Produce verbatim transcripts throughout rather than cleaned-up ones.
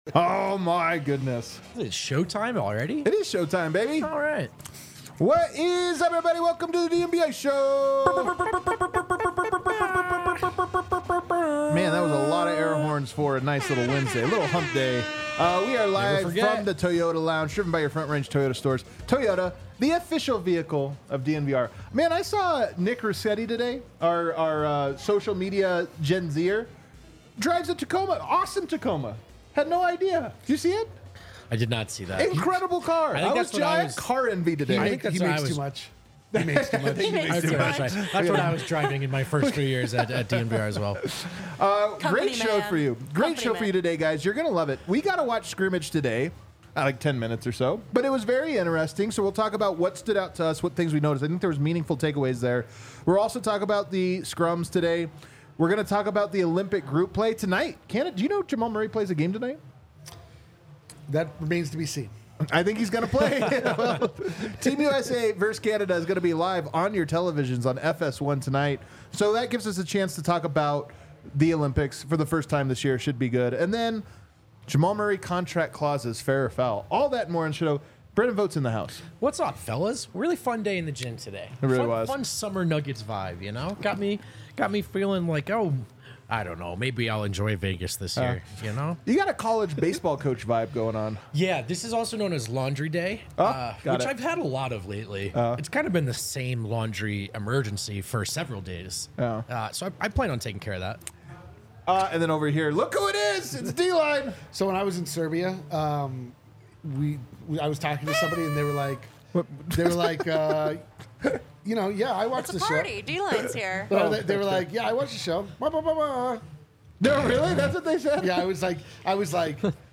Oh, my goodness. Is it showtime already? It is showtime, baby. All right. What is up, everybody? Welcome to the D N B A show. Man, that was a lot of air horns for a nice little Wednesday, a little hump day. Uh, we are live from the Toyota Lounge, driven by your Front Range Toyota stores. Toyota, the official vehicle of D N V R. Man, I saw Nick Rossetti today, our, our uh, social media Gen Zer, drives a Tacoma, awesome Tacoma. Had no idea. Did you see it? I did not see that. Incredible car. I think I that's was what I giant was- car envy today. I He, think make, that's he what I makes was- too much. He makes too much. He makes That's, too that's much. right. That's what I was driving in my first three years at, at D N V R as well. Uh, Company great show man. for you. Great Company show for man. you today, guys. You're going to love it. We got to watch scrimmage today, uh, like ten minutes or so, but it was very interesting. So we'll talk about what stood out to us, what things we noticed. I think there was meaningful takeaways there. We'll also talk about the scrums today. We're going to talk about the Olympic group play tonight. Canada, do you know Jamal Murray plays a game tonight? That remains to be seen. I think he's going to play. Well, Team U S A versus Canada is going to be live on your televisions on F S one tonight. So that gives us a chance to talk about the Olympics for the first time this year. Should be good. And then Jamal Murray contract clauses, fair or foul. All that and more on the show. Brendan Votes in the house. What's up, fellas? Really fun day in the gym today. It really fun, was. Fun summer Nuggets vibe, you know? Got me got me feeling like, oh, I don't know, maybe I'll enjoy Vegas this year, you know? You got a college baseball coach vibe going on. Yeah, this is also known as Laundry Day, Oh, uh, got which it. I've had a lot of lately. Uh. It's kind of been the same laundry emergency for several days. Oh. Uh, so I, I plan on taking care of that. Uh, and then over here, look who it is. It's D-Line. So when I was in Serbia, um, we, we I was talking to somebody and they were like, they were like, uh, you know, yeah, I watched It's a the party. show. D-Line's here. Well, they, they were like, yeah, I watched the show. Blah, blah, blah, blah. No, really? That's what they said? Yeah, I was like, I was like,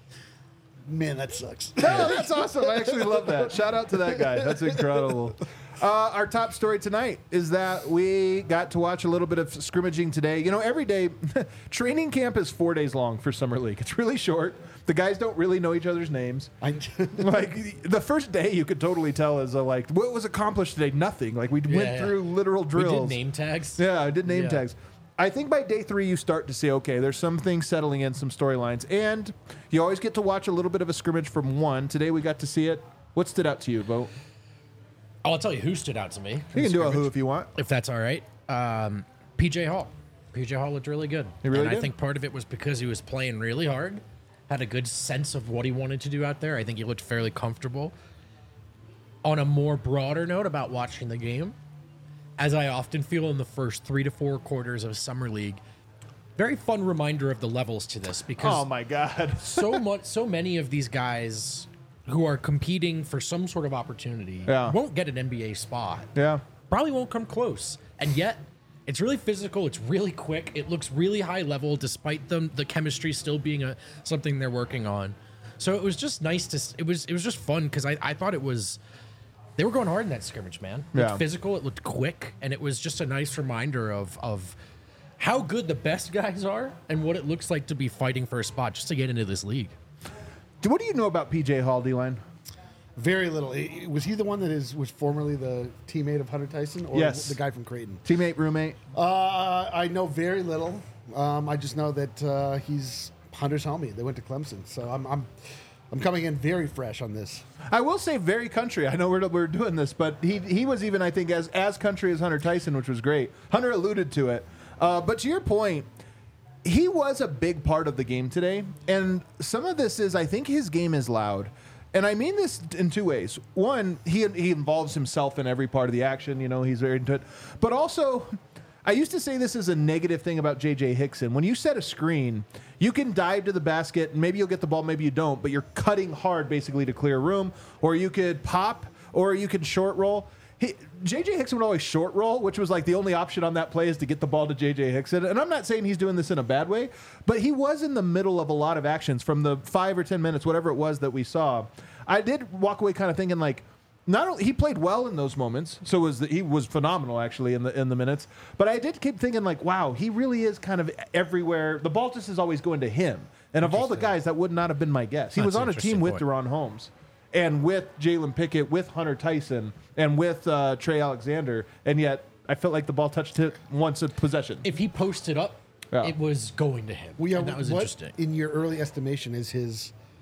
man, that sucks. No, that's awesome. I actually love that. Shout out to that guy. That's incredible. Uh, our top story tonight is that we got to watch a little bit of scrimmaging today. You know, every day, training camp is four days long for Summer League. It's really short. The guys don't really know each other's names. I, Like, the first day you could totally tell is, uh, like, what was accomplished today? Nothing. Like, we Yeah, went yeah. through literal We drills. did name tags. Yeah, I did name Yeah. tags. I think by day three, you start to see, okay, there's some things settling in, some storylines. And you always get to watch a little bit of a scrimmage from one. Today we got to see it. What stood out to you, Bo? Oh, I'll tell you who stood out to me. You can do a who if you want. If that's all right. Um, P J Hall. P J Hall looked really good. He really and did? I think part of it was because he was playing really hard, had a good sense of what he wanted to do out there. I think he looked fairly comfortable. On a more broader note about watching the game, as I often feel in the first three to four quarters of Summer League, very fun reminder of the levels to this because Oh, my God. so much, so many of these guys who are competing for some sort of opportunity Yeah. won't get an N B A spot. Yeah. Probably won't come close. And yet, it's really physical. It's really quick. It looks really high level, despite them the chemistry still being a something they're working on. So it was just nice to. It was it was just fun because I, I thought it was. They were going hard in that scrimmage, man. It looked Yeah. physical. It looked quick, and it was just a nice reminder of of how good the best guys are and what it looks like to be fighting for a spot just to get into this league. Do- What do you know about P J Hall, D-Line? very little. I- Was he the one that is was formerly the teammate of Hunter Tyson, or Yes. the guy from Creighton? Teammate, roommate? Uh, I know very little. Um, I just know that uh, he's Hunter's homie. They went to Clemson, so I'm I'm I'm coming in very fresh on this. I will say very country. I know we're, we're doing this, but he he was even, I think, as, as country as Hunter Tyson, which was great. Hunter alluded to it. Uh, but to your point, he was a big part of the game today. And some of this is, I think his game is loud. And I mean this in two ways. One, he he involves himself in every part of the action. You know, he's very into it. But also, I used to say this is a negative thing about J J Hickson. When you set a screen, you can dive to the basket, and maybe you'll get the ball, maybe you don't, but you're cutting hard basically to clear room. Or you could pop, or you could short roll. He, J J Hickson would always short roll, which was like the only option on that play is to get the ball to J J Hickson. And I'm not saying he's doing this in a bad way, but he was in the middle of a lot of actions from the five or ten minutes, whatever it was that we saw. I did walk away kind of thinking like, not only he played well in those moments, so was the, he was phenomenal actually in the in the minutes. But I did keep thinking like, wow, he really is kind of everywhere. The ball just is always going to him. And of all the guys, that would not have been my guess. He That's was an on a team interesting with point. Deron Holmes, and with Jalen Pickett, with Hunter Tyson, and with uh, Trey Alexander, and yet I felt like the ball touched it once a possession. If he posted up, Yeah. it was going to him. We are, and that was what, interesting. in your early estimation, is his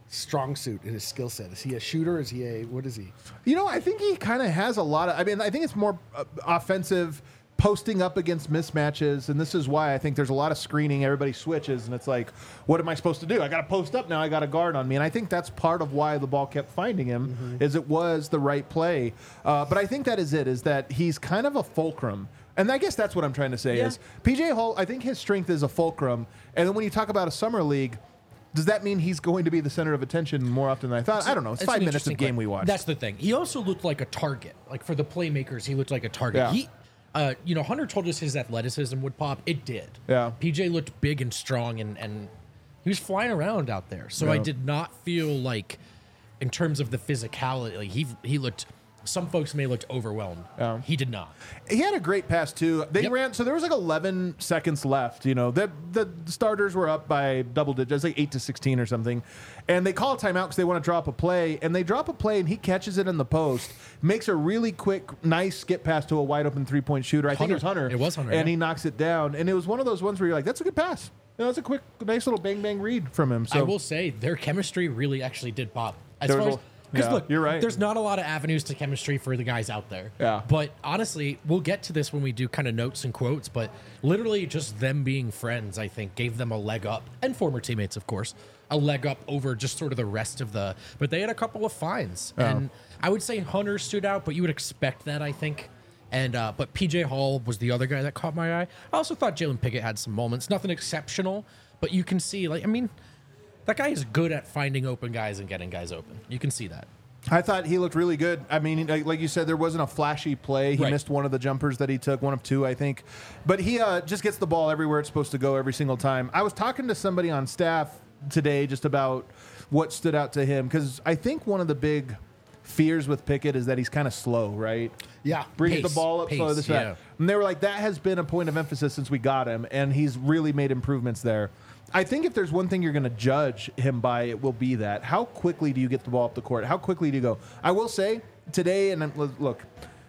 strong suit in his skill set? Is he a shooter? Is he a what is he? You know, I think he kind of has a lot of. I mean, I think it's more uh, offensive, posting up against mismatches, and this is why I think there's a lot of screening. Everybody switches, and it's like, what am I supposed to do? I got to post up now. I got a guard on me, and I think that's part of why the ball kept finding him, mm-hmm. is it was the right play. Uh, but I think that is it. Is that he's kind of a fulcrum. And I guess that's what I'm trying to say yeah. is P J Hall, I think his strength is a fulcrum. And then when you talk about a summer league, does that mean he's going to be the center of attention more often than I thought? I don't know. It's, it's five minutes of game we watched. That's the thing. He also looked like a target. Like for the playmakers, he looked like a target. Yeah. He, uh, you know, Hunter told us his athleticism would pop. It did. Yeah. P J looked big and strong, and, and he was flying around out there. So yeah. I did not feel like, in terms of the physicality, like he he looked. Some folks may have looked overwhelmed. Yeah. He did not. He had a great pass too. They Yep. ran so there was like eleven seconds left. You know, the the starters were up by double digits, like eight to sixteen or something, and they call a timeout because they want to drop a play. And they drop a play, and he catches it in the post, makes a really quick, nice skip pass to a wide open three point shooter. I think it was Hunter. It was Hunter, and yeah. he knocks it down. And it was one of those ones where you're like, that's a good pass. You know, it's a quick, nice little bang bang read from him. So I will say their chemistry really actually did pop. As There far was as a- because yeah, look, you're right. There's not a lot of avenues to chemistry for the guys out there. Yeah. But honestly, we'll get to this when we do kind of notes and quotes. But literally, just them being friends, I think, gave them a leg up, and former teammates, of course, a leg up over just sort of the rest of the. But they had a couple of finds, Yeah. and I would say Hunter stood out, but you would expect that, I think. And uh, but P J Hall was the other guy that caught my eye. I also thought Jalen Pickett had some moments, nothing exceptional, but you can see, like, I mean, that guy is good at finding open guys and getting guys open. You can see that. I thought he looked really good. I mean, like, like you said, there wasn't a flashy play. He Right. missed one of the jumpers that he took, one of two, I think. But he uh, just gets the ball everywhere it's supposed to go every single time. I was talking to somebody on staff today just about what stood out to him, because I think one of the big fears with Pickett is that he's kind of slow, right? Yeah. Brings Pace, the ball up slow, pace, this, yeah. that. And they were like, that has been a point of emphasis since we got him, and he's really made improvements there. I think if there's one thing you're going to judge him by, it will be that. How quickly do you get the ball up the court? How quickly do you go? I will say, today, and I'm- look,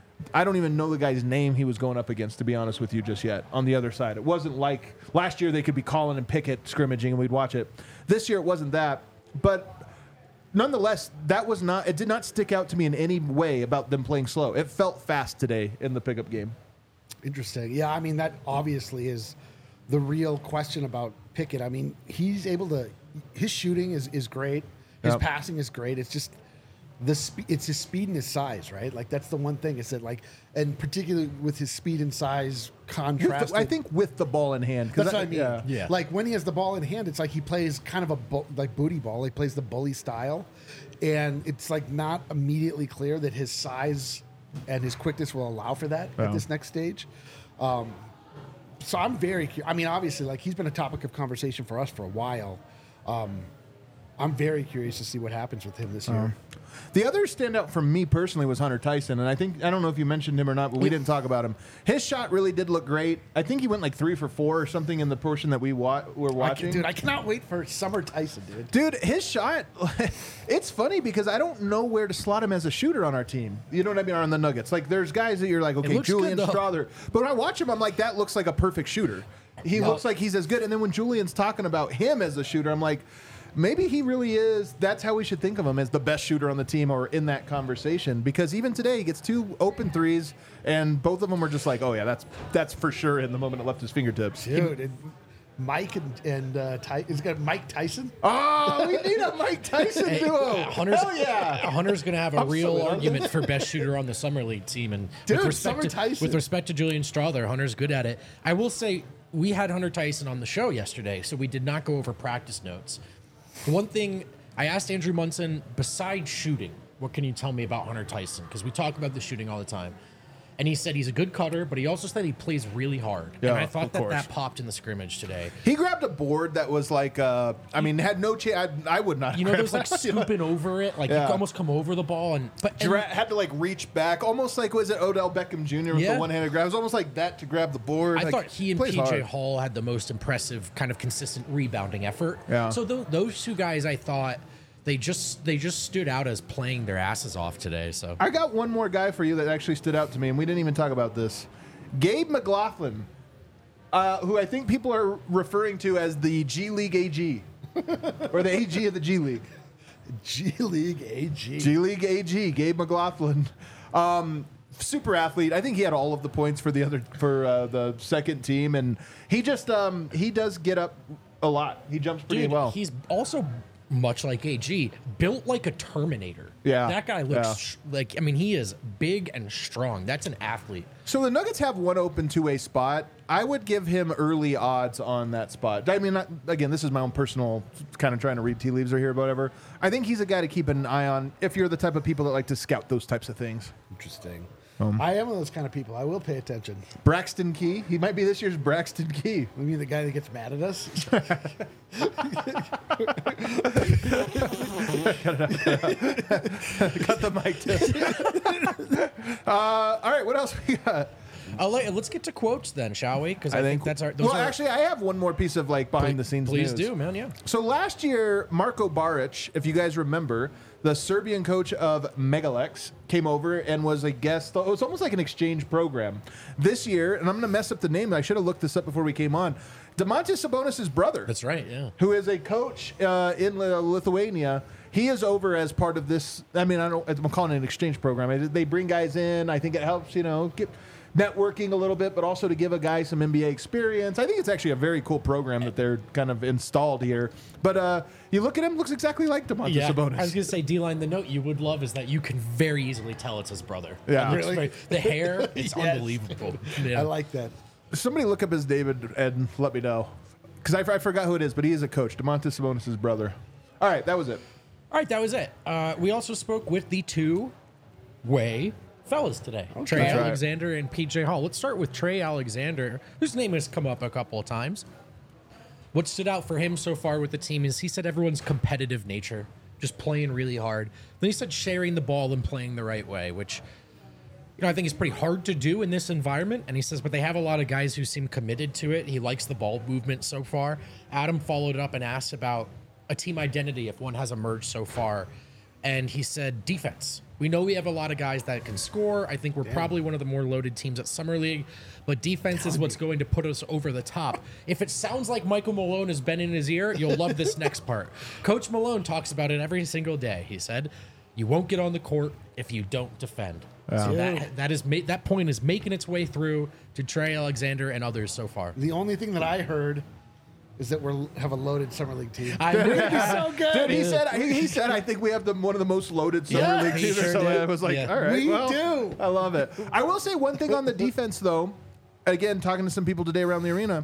I don't even know the guy's name he was going up against, to be honest with you, just yet, on the other side. It wasn't like last year they could be calling and Pickett scrimmaging and we'd watch it. This year it wasn't that. But nonetheless, that was not, it did not stick out to me in any way about them playing slow. It felt fast today in the pickup game. Interesting. Yeah, I mean, that obviously is the real question about Pickett. I mean, he's able to, his shooting is, is great. His Yep. passing is great. It's just the spe- it's his speed and his size, right? Like, that's the one thing is that, like, and particularly with his speed and size With contrasted. the- I think with the ball in hand. 'cause That's that- what I mean. Yeah. Yeah. Like, when he has the ball in hand, it's like he plays kind of a bu- like booty ball. He plays the bully style, and it's like not immediately clear that his size and his quickness will allow for that Yeah. at this next stage. Um, so I'm very. cu- I mean, obviously, like, he's been a topic of conversation for us for a while. Um, I'm very curious to see what happens with him this year. The other standout for me personally was Hunter Tyson, and I think I don't know if you mentioned him or not, but we didn't talk about him. His shot really did look great. I think he went like three for four or something in the portion that we wa- were I can- watching. dude, I cannot wait for Summer Tyson, dude. Dude, his shot, it's funny because I don't know where to slot him as a shooter on our team. You know what I mean? On the Nuggets. Like, there's guys that you're like, okay, looks Julian good, though. Strother. But when I watch him, I'm like, that looks like a perfect shooter. He No. looks like he's as good. And then when Julian's talking about him as a shooter, I'm like, maybe he really is. That's how we should think of him, as the best shooter on the team or in that conversation. Because even today, he gets two open threes, and both of them were just like, oh, yeah, that's that's for sure in the moment it left his fingertips. Dude, and Mike and, and uh, Ty- is it got Mike Tyson? Oh, we need a Mike Tyson Hey, duo. Hunter's, Hell yeah. Hunter's going to have a I'm real so in. argument for best shooter on the summer league team, and Dude, with respect Summer to, Tyson. with respect to Julian Strother, Hunter's good at it. I will say we had Hunter Tyson on the show yesterday, so we did not go over practice notes. The one thing I asked Andrew Munson, besides shooting, what can you tell me about Hunter Tyson? Because we talk about the shooting all the time. And he said he's a good cutter, but he also said he plays really hard. Yeah, and I thought of that course. that popped in the scrimmage today. He grabbed a board that was like, uh, I mean, had no chance. I, I would not. You know, grab there's like that, you know? scooping over it, like Yeah. you could almost come over the ball, and but and, Dra- had to like reach back, almost like was it Odell Beckham Junior with Yeah. the one-handed grab? It was almost like that to grab the board. I Like, thought he and plays P J hard. Hall had the most impressive kind of consistent rebounding effort. Yeah. So th- those two guys, I thought they just they just stood out as playing their asses off today. So I got one more guy for you that actually stood out to me, and we didn't even talk about this. Gabe McLaughlin, uh, who I think people are referring to as the G League A G, or the A G of the G League. G League A G. G League A G, Gabe McLaughlin. Um, super athlete. I think he had all of the points for the other for uh, the second team, and he just um, he does get up a lot. He jumps pretty Dude, well. he's also much like A G, built like a Terminator. Yeah, that guy looks yeah. sh- like. I mean, he is big and strong. That's an athlete. So the Nuggets have one open two-way spot. I would give him early odds on that spot. I mean, not, again, this is my own personal kind of trying to read tea leaves or here, whatever. I think he's a guy to keep an eye on if you're the type of people that like to scout those types of things. Interesting. I am one of those kind of people. I will pay attention. Braxton Key. He might be this year's Braxton Key. You mean the guy that gets mad at us? Cut the mic tip. uh, all right, what else we got? I'll let, let's get to quotes then, shall we? Because I, I think, think that's our. Those well, are, actually, I have one more piece of like behind the scenes please news. do, man. Yeah. So last year, Marko Baric, if you guys remember, the Serbian coach of Megalex came over and was a guest. It was almost like an exchange program. This year, and I'm going to mess up the name. I should have looked this up before we came on. Domantas Sabonis' brother. That's right. Yeah. Who is a coach uh, in Lithuania. He is over as part of this. I mean, I don't. I'm calling it an exchange program. They bring guys in. I think it helps, you know, get networking a little bit, but also to give a guy some N B A experience. I think it's actually a very cool program that they're kind of installed here. But uh, you look at him, looks exactly like Domantas Yeah, Sabonis. I was gonna say D-line. The note you would love is that you can very easily tell it's his brother. Yeah. It looks Really? very- the hair is Yes. unbelievable. Yeah. I like that. Somebody look up his David and let me know. Because I, I forgot who it is, but he is a coach. Domantas Sabonis' brother. All right, that was it. All right, that was it. Uh, we also spoke with the two way fellas today, Trey That's right. Alexander and P J Hall. Let's start with Trey Alexander, whose name has come up a couple of times. What stood out for him so far with the team is he said everyone's competitive nature, just playing really hard. Then he said sharing the ball and playing the right way, which you know I think is pretty hard to do in this environment. And he says, but they have a lot of guys who seem committed to it. He likes the ball movement so far. Adam followed up and asked about a team identity if one has emerged so far. And he said defense. We know we have a lot of guys that can score. I think we're probably one of the more loaded teams at Summer League, but defense is what's going to put us over the top. If it sounds like Michael Malone has been in his ear, you'll love this next part. Coach Malone talks about it every single day. He said, you won't get on the court if you don't defend. So that, that, is ma- that point is making its way through to Trey Alexander and others so far. The only thing that I heard is that we have a loaded summer league team. I knew so good. Dude, he said he, he said I think we have the one of the most loaded summer Yeah, league he teams. sure so did. I was like, Yeah. all right, We well, do. I love it. I will say one thing on the defense though. Again, talking to some people today around the arena,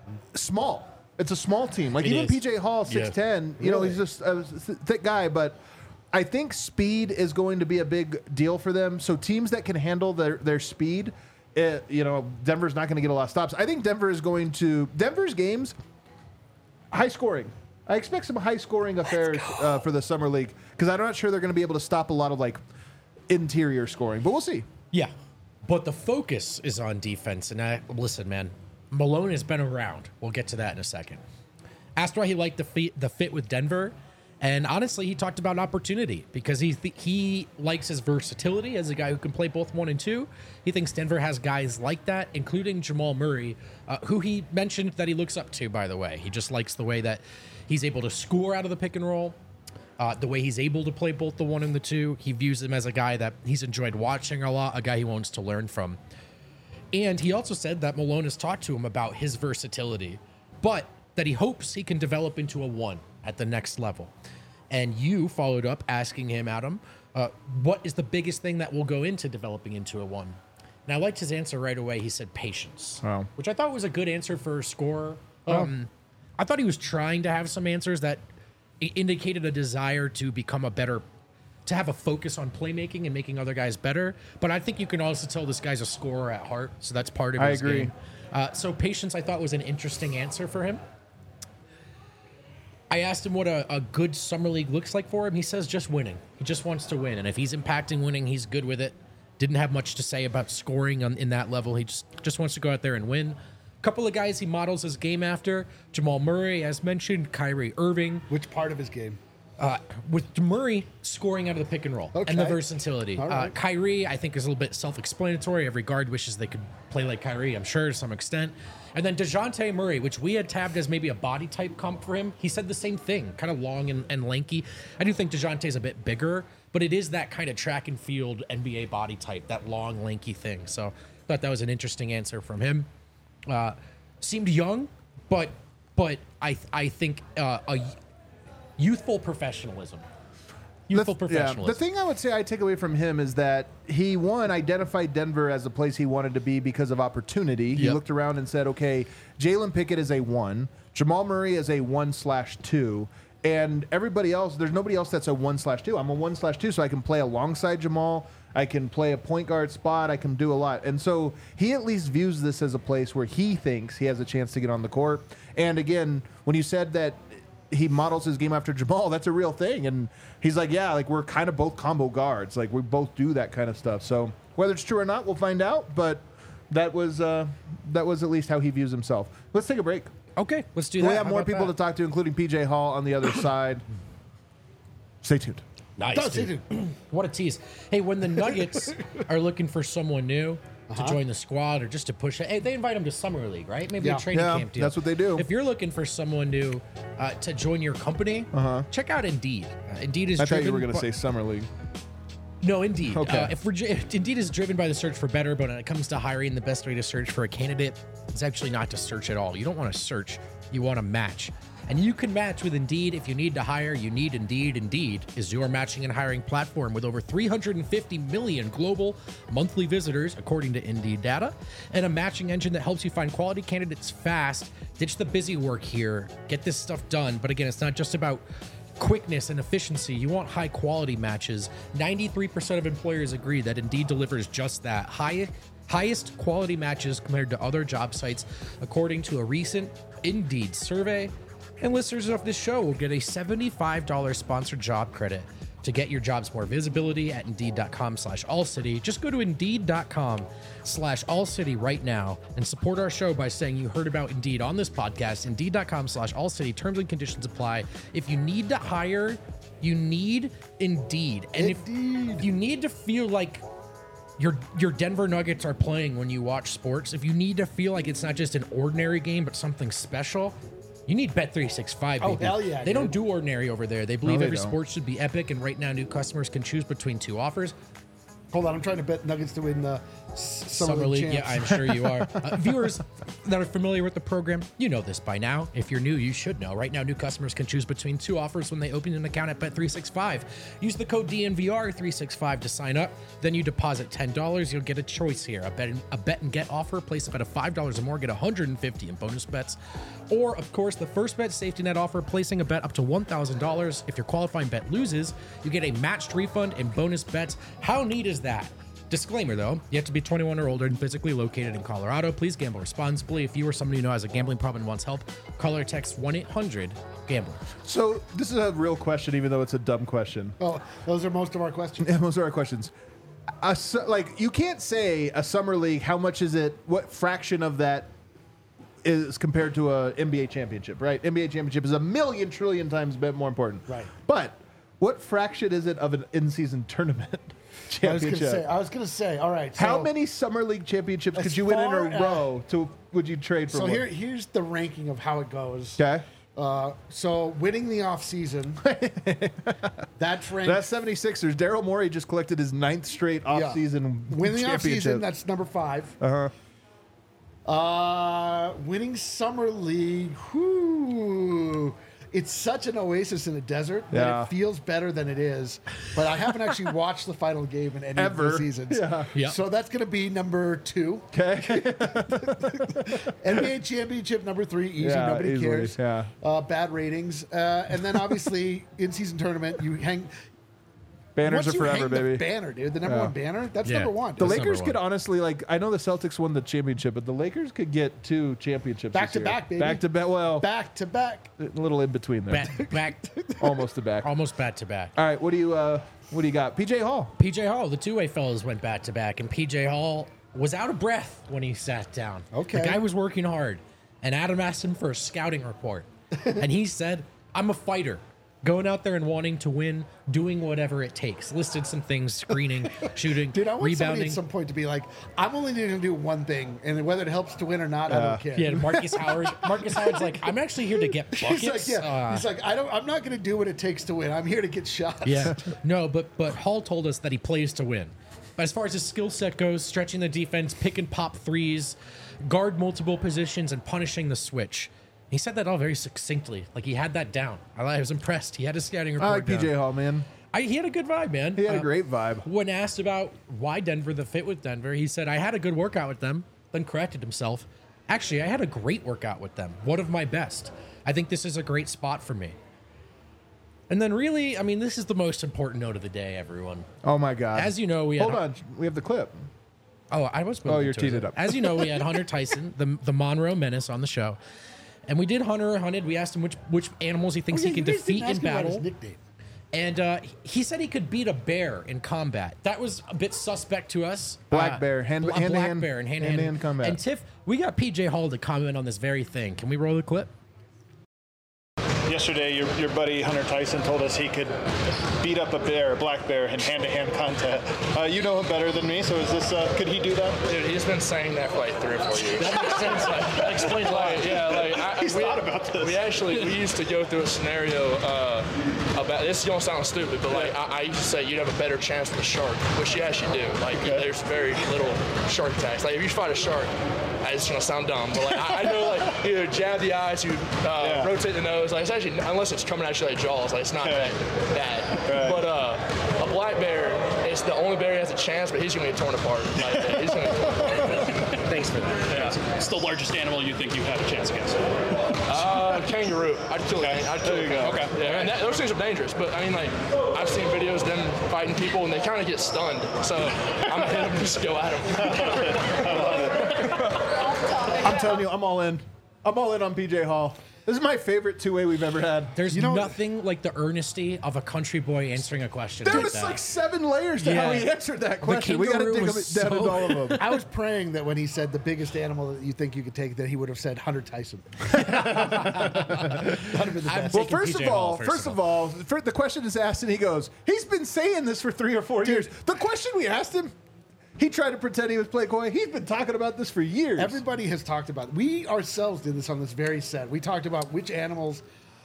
small. It's a small team. Like It even is. P J Hall, six ten. You know, Really? he's just a th- thick guy, but I think speed is going to be a big deal for them. So teams that can handle their their speed, it, you know, Denver's not going to get a lot of stops. I think Denver is going to Denver's games. High scoring. I expect some high scoring affairs uh, for the summer league because I'm not sure they're going to be able to stop a lot of like interior scoring, but we'll see. Yeah, but the focus is on defense. And I listen, man, Malone has been around. We'll get to that in a second. Asked why he liked the fit, the fit with Denver, and honestly, he talked about opportunity because he th- he likes his versatility as a guy who can play both one and two. He thinks Denver has guys like that, including Jamal Murray, uh, who he mentioned that he looks up to. By the way, he just likes the way that he's able to score out of the pick and roll. Uh, the way he's able to play both the one and the two, he views him as a guy that he's enjoyed watching a lot, a guy he wants to learn from. And he also said that Malone has talked to him about his versatility, but that he hopes he can develop into a one at the next level. And you followed up asking him, Adam, uh, what is the biggest thing that will go into developing into a one? And I liked his answer right away. He said patience, Wow. which I thought was a good answer for a scorer. Um, I thought he was trying to have some answers that i- indicated a desire to become a better, to have a focus on playmaking and making other guys better. But I think you can also tell this guy's a scorer at heart, so that's part of I his agree. game. Uh, so patience, I thought, was an interesting answer for him. I asked him what a, a good summer league looks like for him. He says just winning. He just wants to win, and if he's impacting winning, he's good with it. Didn't have much to say about scoring on, in that level. He just just wants to go out there and win. A couple of guys he models his game after: Jamal Murray, as mentioned, Kyrie Irving. Which part of his game? Uh, with Murray scoring out of the pick and roll and the Okay. versatility. All Uh, right. Kyrie, I think, is a little bit self-explanatory. Every guard wishes they could play like Kyrie, I'm sure, to some extent. And then DeJounte Murray, which we had tabbed as maybe a body type comp for him, he said the same thing, kind of long and, and lanky. I do think DeJounte's a bit bigger, but it is that kind of track and field N B A body type, that long, lanky thing. So I thought that was an interesting answer from him. Uh, seemed young, but but I I think uh, a youthful professionalism. Youthful The- professionalism. The thing I would say I take away from him is that he, one, identified Denver as a place he wanted to be because of opportunity. He Yep. looked around and said, okay, Jalen Pickett is a one, Jamal Murray is a one slash two, and everybody else, there's nobody else that's a one slash two. I'm a one slash two, so I can play alongside Jamal. I can play a point guard spot. I can do a lot. And so he at least views this as a place where he thinks he has a chance to get on the court. And again, when you said that he models his game after Jamal, that's a real thing. And he's like, yeah, like we're kind of both combo guards. Like we both do that kind of stuff. So whether it's true or not, we'll find out. But that was uh, that was at least how he views himself. Let's take a break. Okay, let's do that. We have How more about people that? to talk to, including P J Hall on the other side. Stay tuned. Nice. Does dude. he? What a tease. Hey, when the Nuggets are looking for someone new Uh-huh. to join the squad or just to push it, hey, they invite them to Summer League, right? Maybe Yeah. a training Yeah, camp deal. that's what they do. If you're looking for someone new uh, to join your company, check out Indeed. Uh, Indeed is Uh-huh. I thought you driven were going to by- say Summer League. No, Indeed. Okay. Uh, if we're dri- Indeed is driven by the search for better, but when it comes to hiring, the best way to search for a candidate is actually not to search at all. You don't want to search; you want to match. And you can match with Indeed. If you need to hire, you need Indeed. Indeed is your matching and hiring platform with over three hundred fifty million global monthly visitors, according to Indeed data, and a matching engine that helps you find quality candidates fast. Ditch the busy work here. Get this stuff done. But again, it's not just about quickness and efficiency. You want high quality matches. ninety-three percent of employers agree that Indeed delivers just that. High, highest quality matches compared to other job sites, according to a recent Indeed survey. And listeners of this show will get a seventy-five dollars sponsored job credit to get your jobs more visibility at indeed.com slash allcity. Just go to indeed.com slash allcity right now and support our show by saying you heard about Indeed on this podcast. Indeed.com slash allcity. Terms and conditions apply. If you need to hire, you need Indeed. And if, if you need to feel like your your Denver Nuggets are playing when you watch sports, if you need to feel like it's not just an ordinary game but something special, you need Bet three sixty-five, Oh, baby. hell yeah, They dude. don't do ordinary over there. They believe they every don't. sport should be epic, and right now new customers can choose between two offers. Hold on, I'm trying to bet Nuggets to win the S- Summer, Summer League, yeah, champs. I'm sure you are. Uh, viewers that are familiar with the program, you know this by now. If you're new, you should know. Right now, new customers can choose between two offers when they open an account at Bet three sixty-five. Use the code D N V R three sixty-five to sign up. Then you deposit ten dollars. You'll get a choice here. A bet, a bet and get offer. Place a bet of five dollars or more, get one hundred fifty in bonus bets. Or, of course, the first bet safety net offer, placing a bet up to one thousand dollars. If your qualifying bet loses, you get a matched refund and bonus bets. How neat is that? Disclaimer though, you have to be twenty-one or older and physically located in Colorado. Please gamble responsibly. If you or somebody you know has a gambling problem and wants help, call or text one eight hundred gambler. So this is a real question, even though it's a dumb question. Oh, those are most of our questions. Yeah, those are our questions. A, su- like you can't say a summer league. How much is it? What fraction of that is compared to a N B A championship? Right, N B A championship is a million trillion times bit more important. Right. But what fraction is it of an in-season tournament I was gonna championship? say. I was gonna say. All right. So, How many summer league championships As could you win in far a as- row? To would you trade for? So one? here, here's the ranking of how it goes. okay, Uh, so winning the off season, that's ranked. that's seventy-sixers. Daryl Morey just collected his ninth straight off-season winning the off season. championship. That's number five. Uh-huh. Uh, winning summer league. Whoo. It's such an oasis in a desert Yeah. that it feels better than it is. But I haven't actually watched the final game in any Ever. of the seasons. Yeah. Yeah. So that's going to be number two. Okay. N B A championship number three. Easy. Yeah, Nobody easily, cares. yeah. Uh, bad ratings. Uh, and then obviously in season tournament, you hang. Banners once are you forever, hang baby. The banner, dude. The number Yeah. one banner. That's Yeah. number one. The That's Lakers number could one. honestly, like, I know the Celtics won the championship, but the Lakers could get two championships Back this to year. back, baby. Back to back. Well, Back to back. a little in between there. Back, back, Almost to back. All almost back to back. right, what do you uh, what do you got? P J Hall. P J Hall, the two-way fellas went back to back, and P J Hall was out of breath when he sat down. Okay. The guy was working hard, and Adam asked him for a scouting report, and he said, "I'm a fighter. Going out there and wanting to win, doing whatever it takes. Listed some things: screening, shooting, Dude, I want somebody rebounding. at some point to be like, I'm only going to do one thing, and whether it helps to win or not, I don't care. Yeah, Marcus Howard. Marcus Howard's like, I'm actually here to get buckets. He's like, yeah. Uh, He's like, I don't. I'm not going to do what it takes to win. I'm here to get shots. Yeah. No, but but Hall told us that he plays to win. But as far as his skill set goes, stretching the defense, pick and pop threes, guard multiple positions, and punishing the switch. He said that all very succinctly. Like he had that down. I was impressed. He had his scouting report I like P J down. Hall, man. I, he had a good vibe, man. He had Uh, a great vibe. When asked about why Denver, the fit with Denver, he said, I had a good workout with them, then corrected himself. Actually, I had a great workout with them. One of my best. I think this is a great spot for me. And then really, I mean, this is the most important note of the day, everyone. Oh my God! As you know, we hold had, on. We have the clip. Oh, I was. Oh, you're teed it up. As you know, we had Hunter Tyson, the the Monroe Menace, on the show, and we did Hunter Hunted. We asked him which which animals he thinks Oh, yeah, he can you guys defeat didn't in ask me about his battle. nickname. And uh, he said he could beat a bear in combat. That was a bit suspect to us. Black Uh, bear, hand- a hand to black hand- bear, and hand, hand to hand, hand combat. And Tiff, we got P J Hall to comment on this very thing. Can we roll the clip? Yesterday, your, your buddy Hunter Tyson told us he could beat up a bear, a black bear, in hand-to-hand combat. Uh, you know him better than me, so is this? Uh, could he do that? Dude, he's been saying that for like three or four years. That makes sense. That explains why. Like, yeah, like I, He's we, thought about this. We actually we used to go through a scenario uh, about this. Is gonna sound stupid, but like I, I used to say you'd have a better chance with a shark, which you actually do. Like there's very little shark attacks. Like if you fight a shark, it's gonna sound dumb, but like I, I know like either jab the eyes, you uh, Yeah. rotate the nose. Like it's actually unless it's coming at you like jaws, like it's not that bad. Right. But uh, a black bear, it's the only bear that has a chance, but he's gonna get torn apart. Like he's gonna get torn apart. Thanks for that. Yeah. It's the largest animal you think you have a chance against. Uh, kangaroo. I'd kill Okay. it. I'd kill There you it. go. Okay. Yeah, and that, those things are dangerous. But I mean, like, I've seen videos of them fighting people, and they kind of get stunned. So I'm gonna hit them and just go at them. I'm telling you, I'm all in. I'm all in on P J Hall. This is my favorite two-way we've ever had. There's You know- nothing like the earnesty of a country boy answering a question. There like was that. like seven layers to how Yeah. he answered that question. We got to kangaroo dig was down so- into all of them. I was praying that when he said the biggest animal that you think you could take, that he would have said Hunter Tyson. That'd have been the I'm best. Well, taking first P J of all, Hall, first of all, fir- the question is asked, and he goes, "He's been saying this for three or four years." The question we asked him, he tried to pretend he was playing coy. He's been talking about this for years. Everybody has talked about it. We ourselves did this on this very set. We talked about which animals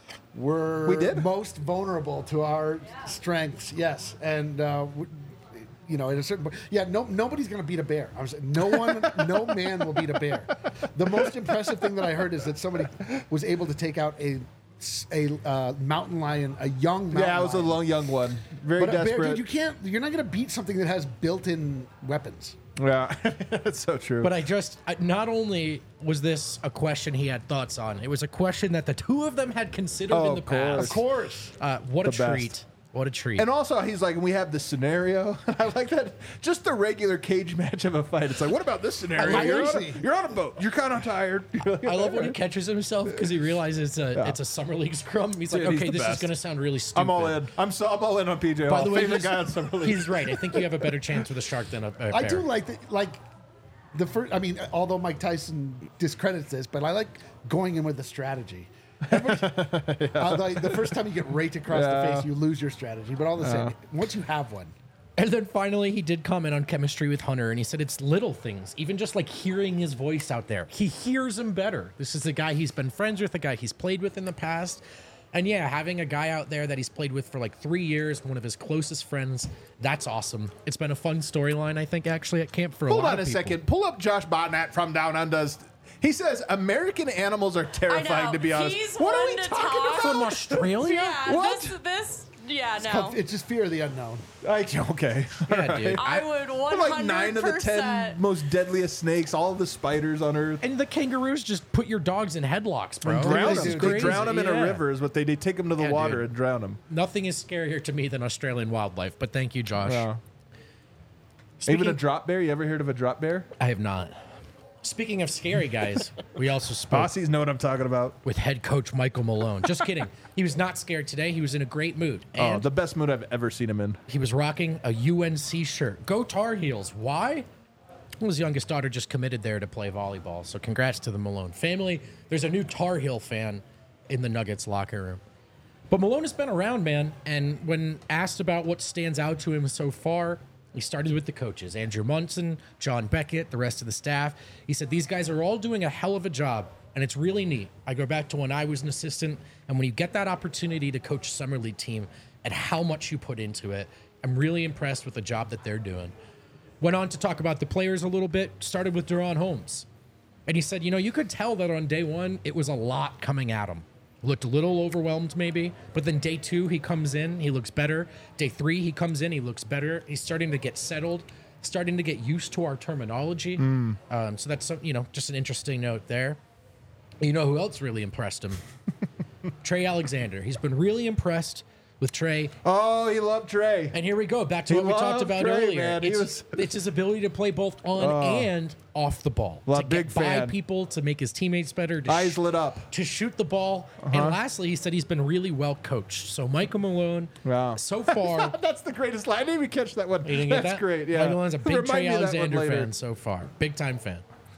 were We did? most vulnerable to our strengths. Yes, and uh, w- you know, at a certain point, yeah, no, nobody's going to beat a bear. I was no one, no man will beat a bear. The most impressive thing that I heard is that somebody was able to take out a a uh, mountain lion, a young mountain yeah, I was a lion. long young one, very But a bear, desperate. dude, you can't. You're not going to beat something that has built-in weapons. yeah, that's so true. But I just, I, not only was this a question he had thoughts on, it was a question that the two of them had considered Oh, in the of course. past. Of course. Uh, what a The best. treat. What a treat. And also, he's like, we have this scenario. I like that. Just the regular cage match of a fight. It's like, what about this scenario? like You're it. on, a, you're on a boat. You're kind of tired. I love when he catches himself because he realizes it's a, Yeah. it's a summer league scrum. He's like, Dude, he's okay, the this is best. going to sound really stupid. I'm all in. I'm so I'm all in on P J By Hall. the way, Favorite he's, guy on Summer League. he's right. I think you have a better chance with a shark than a, a I bear. do like the, like the first. I mean, although Mike Tyson discredits this, but I like going in with the strategy. Everybody- uh, like, the first time you get raked across Yeah. the face, you lose your strategy. But all the same, once you have one, And then finally, he did comment on chemistry with Hunter, and he said it's little things, even just like hearing his voice out there. He hears him better. This is a guy he's been friends with, a guy he's played with in the past. And yeah, having a guy out there that he's played with for like three years, one of his closest friends, that's awesome. It's been a fun storyline, I think, actually, at camp for a Hold lot on a of people. second. Pull up Josh Botnat from Down Under's. He says American animals are terrifying. I know. To be honest, He's what are one we to talking talk. From about? Australia? Yeah, What? this, this, yeah, it's, no. called- it's just fear of the unknown. Like, okay, Yeah, dude. I would one like hundred nine of the ten percent. most deadliest snakes, all of the spiders on Earth. And the kangaroos just put your dogs in headlocks, bro. Drown This them. is They crazy. drown them in Yeah. a river. Is what they they take them to the Yeah, water dude. and drown them. Nothing is scarier to me than Australian wildlife, but thank you, Josh. Yeah. Speaking- Even a drop bear. You ever heard of a drop bear? I have not. Speaking of scary guys, we also spoke Aussies know what I'm talking about. with head coach Michael Malone. Just kidding. He was not scared today. He was in a great mood. Oh, And the best mood I've ever seen him in. he was rocking a U N C shirt. Go Tar Heels. Why? Well, his youngest daughter just committed there to play volleyball. So congrats to the Malone family. There's a new Tar Heel fan in the Nuggets locker room. But Malone has been around, man. And when asked about what stands out to him so far, he started with the coaches, Andrew Munson, John Beckett, the rest of the staff. He said, these guys are all doing a hell of a job, and it's really neat. I go back to when I was an assistant, and when you get that opportunity to coach a summer league team and how much you put into it, I'm really impressed with the job that they're doing. Went on to talk about the players a little bit, started with De'Ron Holmes. And he said, you know, you could tell that on day one, it was a lot coming at him. Looked a little overwhelmed maybe, but then day two, he comes in, he looks better. Day three, he comes in, he looks better. He's starting to get settled, starting to get used to our terminology. Mm. Um, so that's, you know, just an interesting note there. You know who else really impressed him? Trey Alexander. He's been really impressed with Trey. Oh, he loved Trey. And here we go, back to He what we talked loved about Trey, earlier. man. He It's, was- it's his ability to play both on Oh. and off the ball. Well, to big get by fan. people, to make his teammates better. To Eyes sh- lit up. to shoot the ball. Uh-huh. And lastly, he said he's been really well coached. So Michael Malone, Wow. so far, That's the greatest line. I didn't even catch that one. you didn't get That's that? great. Yeah. Michael Malone's a big Remind Trey me of that one Alexander later. fan so far. Big time fan.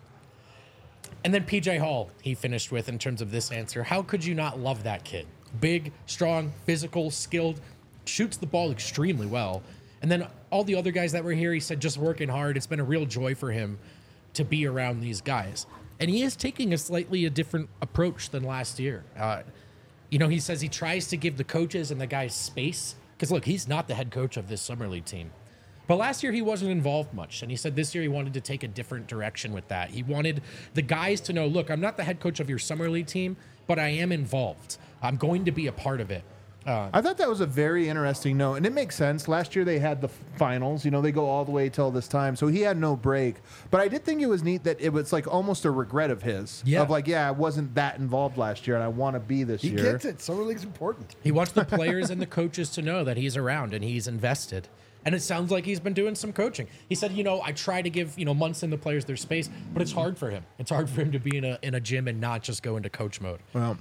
And then P J Hall, he finished with in terms of this answer. How could you not love that kid? Big, strong, physical, skilled, shoots the ball extremely well. And then all the other guys that were here, he said just working hard. It's been a real joy for him to be around these guys. And he is taking a slightly a different approach than last year. Uh, you know, he says he tries to give the coaches and the guys space. Because, look, he's not the head coach of this Summer League team. But last year, he wasn't involved much. And he said this year he wanted to take a different direction with that. He wanted the guys to know, look, I'm not the head coach of your Summer League team, but I am involved. I'm going to be a part of it. Uh, I thought that was a very interesting note, and it makes sense. Last year they had the finals. You know, they go all the way till this time, so he had no break. But I did think it was neat that it was like almost a regret of his. Yeah. Of like, yeah, I wasn't that involved last year, and I want to be this He year. gets it. Summer League's important. He wants the players and the coaches to know that he's around and he's invested. And it sounds like he's been doing some coaching. He said, you know, I try to give, you know, Munson the players their space, but it's hard for him. It's hard for him to be in a in a gym and not just go into coach mode. Well,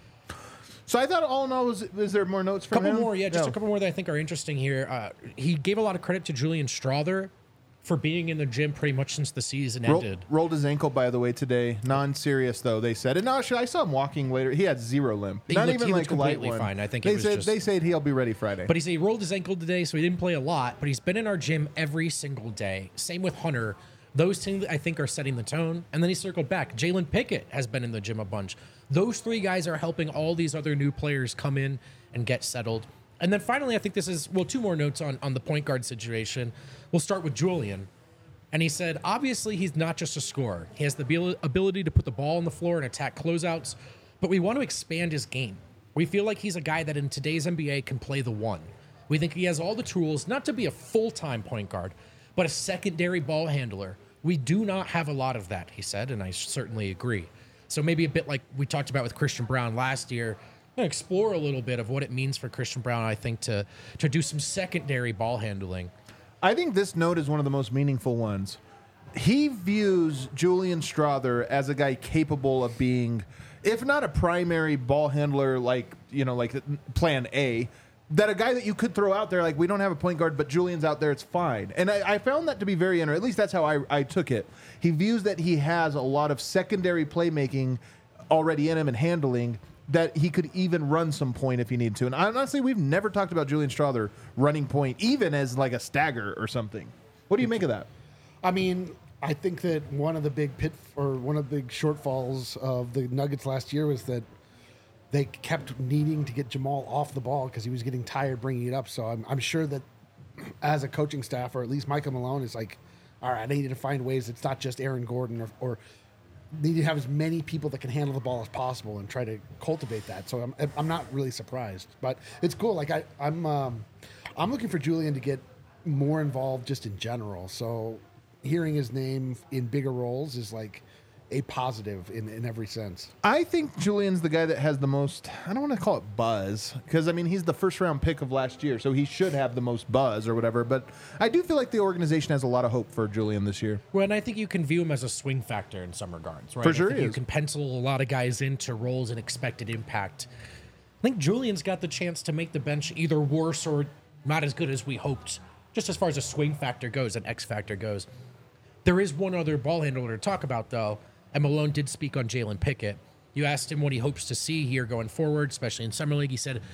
so I thought all in all, was, is there more notes from couple him? more, yeah, just No. a couple more that I think are interesting here. Uh, he gave a lot of credit to Julian Strother for being in the gym pretty much since the season Roll, ended. rolled his ankle, by the way, today. Non-serious, though, they said. And no, actually, I saw him walking later. He had zero limp. He Not looked- even he like looked a light completely one. fine. I think they it was said just- they said he'll be ready Friday. But he said he rolled his ankle today, so he didn't play a lot, but he's been in our gym every single day. Same with Hunter. Those two, I think, are setting the tone. And then he circled back. Jalen Pickett has been in the gym a bunch. Those three guys are helping all these other new players come in and get settled. And then finally, I think this is, well, two more notes on, on the point guard situation. We'll start with Julian. And he said, obviously, he's not just a scorer. He has the abil- ability to put the ball on the floor and attack closeouts, but we want to expand his game. We feel like he's a guy that in today's N B A can play the one. We think he has all the tools, not to be a full-time point guard, but a secondary ball handler. We do not have a lot of that, he said, and I certainly agree. So maybe a bit like we talked about with Christian Brown last year, explore a little bit of what it means for Christian Brown, I think, to, to do some secondary ball handling. I think this note is one of the most meaningful ones. He views Julian Strother as a guy capable of being, if not a primary ball handler, like, you know, like plan A, that a guy that you could throw out there, like, we don't have a point guard, but Julian's out there, it's fine. And I, I found that to be very interesting. At least that's how I, I took it. He views that he has a lot of secondary playmaking already in him and handling, that he could even run some point if he needed to. And honestly, we've never talked about Julian Strother running point, even as like a stagger or something. What do you make of that? I mean, I think that one of the big pit or one of the big shortfalls of the Nuggets last year was that they kept needing to get Jamal off the ball because he was getting tired bringing it up. So I'm, I'm sure that as a coaching staff, or at least Michael Malone is like, all right, I need to find ways. It's not just Aaron Gordon or, or need to have as many people that can handle the ball as possible and try to cultivate that. So I'm, I'm not really surprised, but it's cool. Like I, I'm, um, I'm looking for Julian to get more involved just in general. So hearing his name in bigger roles is like a positive in, in every sense. I think Julian's the guy that has the most, I don't want to call it buzz, because, I mean, he's the first round pick of last year, so he should have the most buzz or whatever. But I do feel like the organization has a lot of hope for Julian this year. Well, and I think you can view him as a swing factor in some regards, right? For sure I think he you is. can pencil a lot of guys into roles and expected impact. I think Julian's got the chance to make the bench either worse or not as good as we hoped, just as far as a swing factor goes, an X factor goes. There is one other ball handler to talk about, though, and Malone did speak on Jalen Pickett. You asked him what he hopes to see here going forward, especially in Summer League. He said,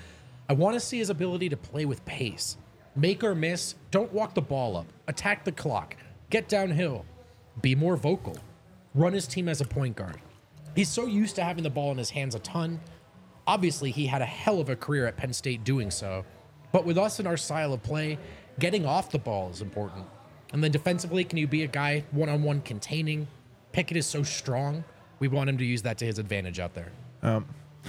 I want to see his ability to play with pace. Make or miss, don't walk the ball up. Attack the clock. Get downhill. Be more vocal. Run his team as a point guard. He's so used to having the ball in his hands a ton. Obviously, he had a hell of a career at Penn State doing so. But with us and our style of play, getting off the ball is important. And then defensively, can you be a guy one-on-one containing? Pickett is so strong. We want him to use that to his advantage out there. Um,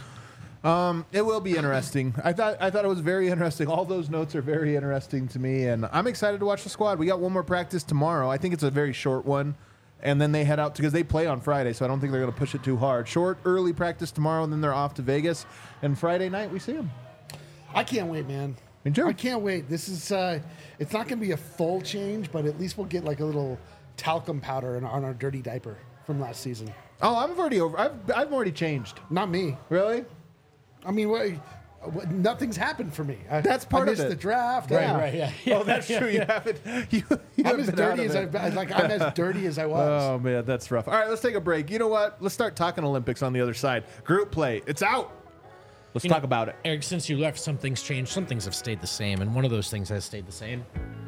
um, it will be interesting. I thought I thought it was very interesting. All those notes are very interesting to me, and I'm excited to watch the squad. We got one more practice tomorrow. I think it's a very short one, and then they head out because they play on Friday, so I don't think they're going to push it too hard. Short, early practice tomorrow, and then they're off to Vegas. And Friday night we see them. I can't wait, man. Me too. I can't wait. This is, uh, it's not going to be a full change, but at least we'll get like a little talcum powder in, on our dirty diaper from last season. Oh, I'm already over. I've I've already changed. Not me. Really? I mean, what, what, nothing's happened for me. I, That's part I of missed it. the draft. Right, yeah. right, yeah. yeah Oh, that's yeah, true. yeah. You haven't. You, you I'm haven't as been dirty out as of I it. like. I'm as dirty as I was. Oh man, that's rough. All right, let's take a break. You know what? Let's start talking Olympics on the other side. Group play. It's out. Let's You talk know, about it. Eric, since you left, some things changed. Some things have stayed the same, and one of those things has stayed the same.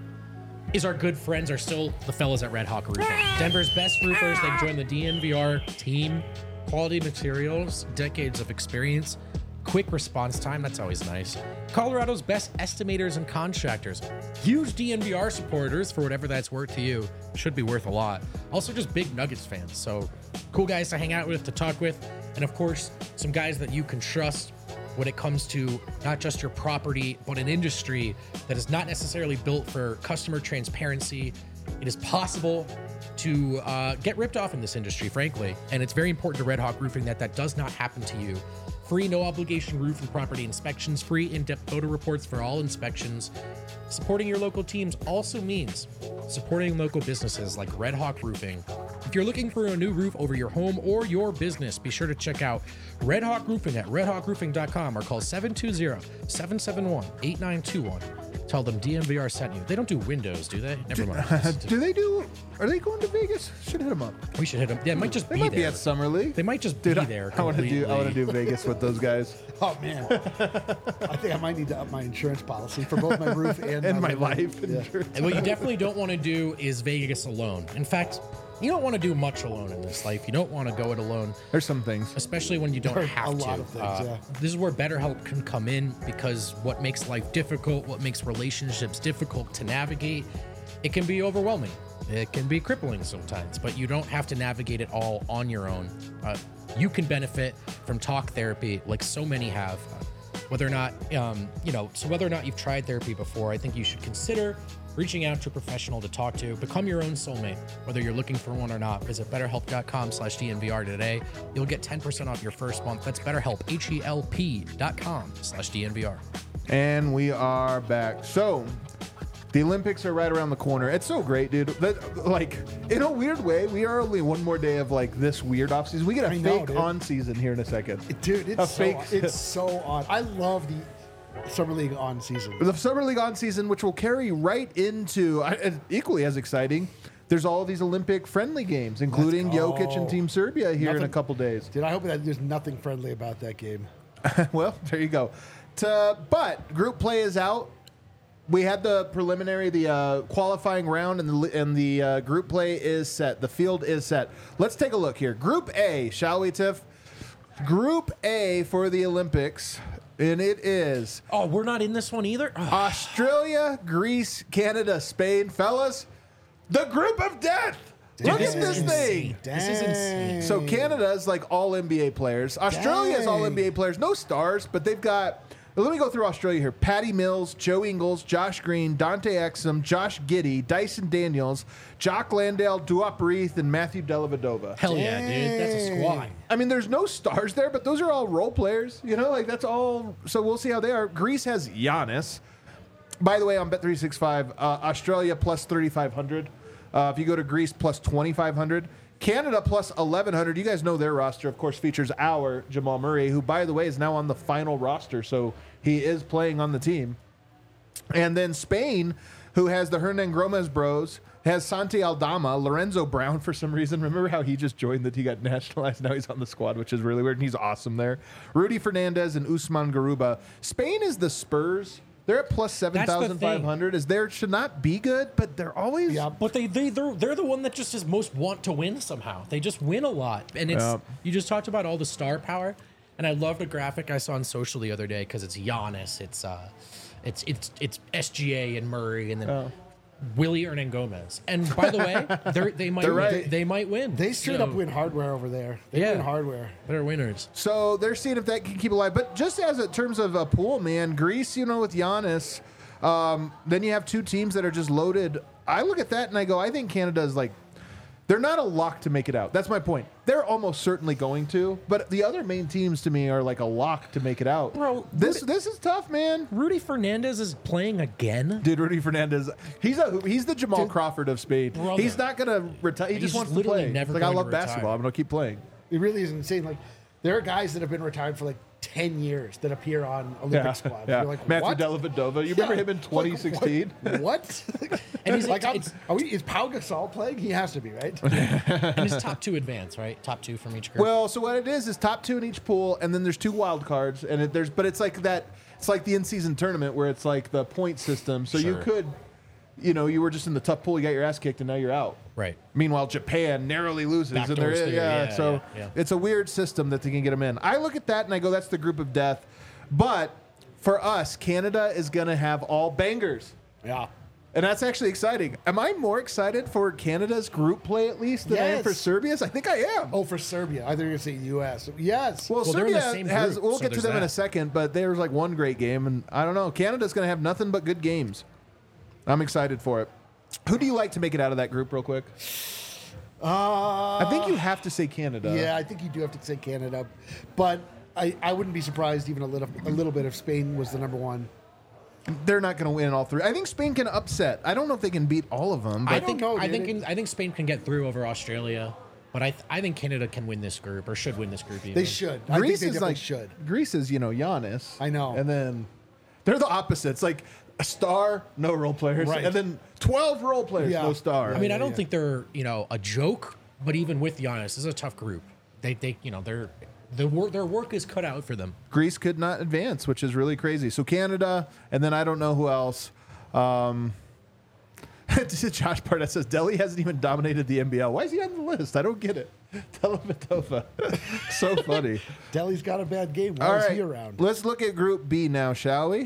Is our good friends are still the fellas at Red Hawk Roofing. Denver's best roofers. They've joined the D N V R team. Quality materials, decades of experience, quick response time. That's always nice. Colorado's best estimators and contractors. Huge D N V R supporters, for whatever that's worth to you. Should be worth a lot. Also, just big Nuggets fans. So, cool guys to hang out with, to talk with, and of course, some guys that you can trust when it comes to not just your property, but an industry that is not necessarily built for customer transparency. It is possible to uh, get ripped off in this industry, frankly, and it's very important to Red Hawk Roofing that that does not happen to you. Free no obligation roof and property inspections, free in-depth photo reports for all inspections. Supporting your local teams also means supporting local businesses like Red Hawk Roofing. If you're looking for a new roof over your home or your business, be sure to check out Red Hawk Roofing at red hawk roofing dot com or call seven two zero, seven seven one, eight nine two one. Tell them D N V R sent you. They don't do windows, do they? Never mind. Do they do? Are they going to Vegas? Should hit them up. We should hit them. Yeah, it might just They be might there. be at Summer League. They might just Dude, be I- there. I want to do. I want to completely. do Vegas with those guys Oh man, I think I might need to up my insurance policy for both my roof and, and my roofing. life. Yeah. insurance. And what you definitely don't want to do is Vegas alone. In fact, you don't want to do much alone in this life. You don't want to go it alone, There's some things. especially when you don't There are have a to. lot of things, Uh, yeah. This is where BetterHelp can come in, because what makes life difficult, what makes relationships difficult to navigate, it can be overwhelming. It can be crippling sometimes, but you don't have to navigate it all on your own. Uh, you can benefit from talk therapy like so many have. Uh, whether or not, um, you know, so whether or not you've tried therapy before, I think you should consider reaching out to a professional to talk to. Become your own soulmate. Whether you're looking for one or not, visit betterhelp.com slash DNVR today. You'll get ten percent off your first month. That's BetterHelp, H-E-L-P dot com slash DNVR. And we are back. So, the Olympics are right around the corner. It's so great, dude. That, like, in a weird way, we are only one more day of like this weird off season. We get a I know, fake dude. on season here in a second. Dude, A it's so, fake- it's so odd. I love the Summer League on season. The Summer League on season, which will carry right into, uh, equally as exciting, there's all these Olympic friendly games, including go. Jokic and Team Serbia here in a Nothing- couple days. Dude, I hope that there's nothing friendly about that game. Well, there you go. To, but group play is out. We had the preliminary, the uh, qualifying round, and the li- and the uh, group play is set. The field is set. Let's take a look here. Group A, shall we, Tiff? Group A for the Olympics, and it is Oh, we're not in this one either? Oh, Australia, Greece, Canada, Spain. Fellas, the group of death. Look this at is this insane. thing. This is insane. So Canada is like all N B A players. Australia is all N B A players. No stars, but they've got. Let me go through Australia here. Patty Mills, Joe Ingles, Josh Green, Dante Exum, Josh Giddey, Dyson Daniels, Jock Landale, Duop Reith, and Matthew Dellavedova. hell yeah, dude. That's a squad. I mean, there's no stars there, but those are all role players. You know, like that's all. So we'll see how they are. Greece has Giannis. By the way, on Bet three sixty-five, uh, Australia plus thirty-five hundred. Uh, if you go to Greece, plus twenty-five hundred. Canada plus eleven hundred. You guys know their roster, of course, features our Jamal Murray, who, by the way, is now on the final roster, so he is playing on the team. And then Spain, who has the Hernan Gomez bros, has Santi Aldama, Lorenzo Brown for some reason. Remember how he just joined that he got nationalized? Now he's on the squad, which is really weird, and he's awesome there. Rudy Fernandez and Usman Garuba. Spain is the Spurs. They're at plus seven thousand five hundred. Is there should not be good, but they're always. Yeah. But they, they, they're, they're the one that just is most want to win somehow. They just win a lot. And it's Yeah. you just talked about all the star power. And I loved a graphic I saw on social the other day because it's Giannis, it's uh, it's it's it's S G A and Murray, and then Oh. Willie Hernan Gomez. And by the way, they're, they might They're win. right. They might win. They straight So, up win hardware over there. They Yeah. win hardware. They're winners. So they're seeing if that can keep alive. But just as in terms of a pool, man, Greece, you know, with Giannis, um, then you have two teams that are just loaded. I look at that and I go, I think Canada is like, they're not a lock to make it out. That's my point. They're almost certainly going to, but the other main teams to me are like a lock to make it out. Bro, this this is tough, man. Rudy Fernandez is playing again. Dude, Rudy Fernandez, he's a he's the Jamal Dude, Crawford of Spain. brother. He's not gonna retire. He He's just wants to literally play. never He's like I going love to retire. basketball. I'm gonna keep playing. It really is insane. Like there are guys that have been retired for like ten years that appear on Olympic squads. yeah. You're like, Matthew what? Dellavedova. You remember Yeah. him in twenty sixteen? Like, what? And he's- like, I'm- it's- are we, is Pau Gasol playing? He has to be, right? And his top two advance, right? Top two from each group. Well, so what it is is top two in each pool, and then there's two wild cards, and it, there's but it's like that. It's like the in-season tournament where it's like the point system. So you Sure. could, you know, you were just in the tough pool, you got your ass kicked, and now you're out. Right. Meanwhile, Japan narrowly loses, and Backdoors they're theory, yeah, yeah, So yeah, yeah. it's a weird system that they can get them in. I look at that and I go, that's the group of death. But for us, Canada is going to have all bangers. Yeah. And that's actually exciting. Am I more excited for Canada's group play at least than I am Yes. for Serbia's? I think I am. Oh, for Serbia. I thought you were going to say U S. Yes. Well, Well, they're in Serbia the same has. group, We'll so get to there's them in a that. second, but there's like one great game, and I don't know. Canada's going to have nothing but good games. I'm excited for it. Who do you like to make it out of that group, real quick? uh, I think you have to say Canada. yeah, I think you do have to say Canada. But I, I wouldn't be surprised even a little a little bit if Spain was the number one. They're not going to win all three. I think Spain can upset. I don't know if they can beat all of them. I But don't think know, I dude. think in, I think Spain can get through over Australia, but I th- I think Canada can win this group or should win this group. Even. They should. I think Greece they is definitely like should. Greece is you know Giannis. I know. And then they're the opposites. Like a star, no role players, Right. and then twelve role players, Yeah. no star. I mean, I yeah, don't yeah. think they're you know a joke, but even with Giannis, this is a tough group. They they you know they're the work their work is cut out for them. Greece could not advance, which is really crazy. So Canada, and then I don't know who else. Um, Josh Barnett says Delhi hasn't even dominated the N B L. Why is he on the list? I don't get it. Dellavedova. So funny. Delhi's got a bad game. Why All is right, he around? let's look at Group B now, shall we?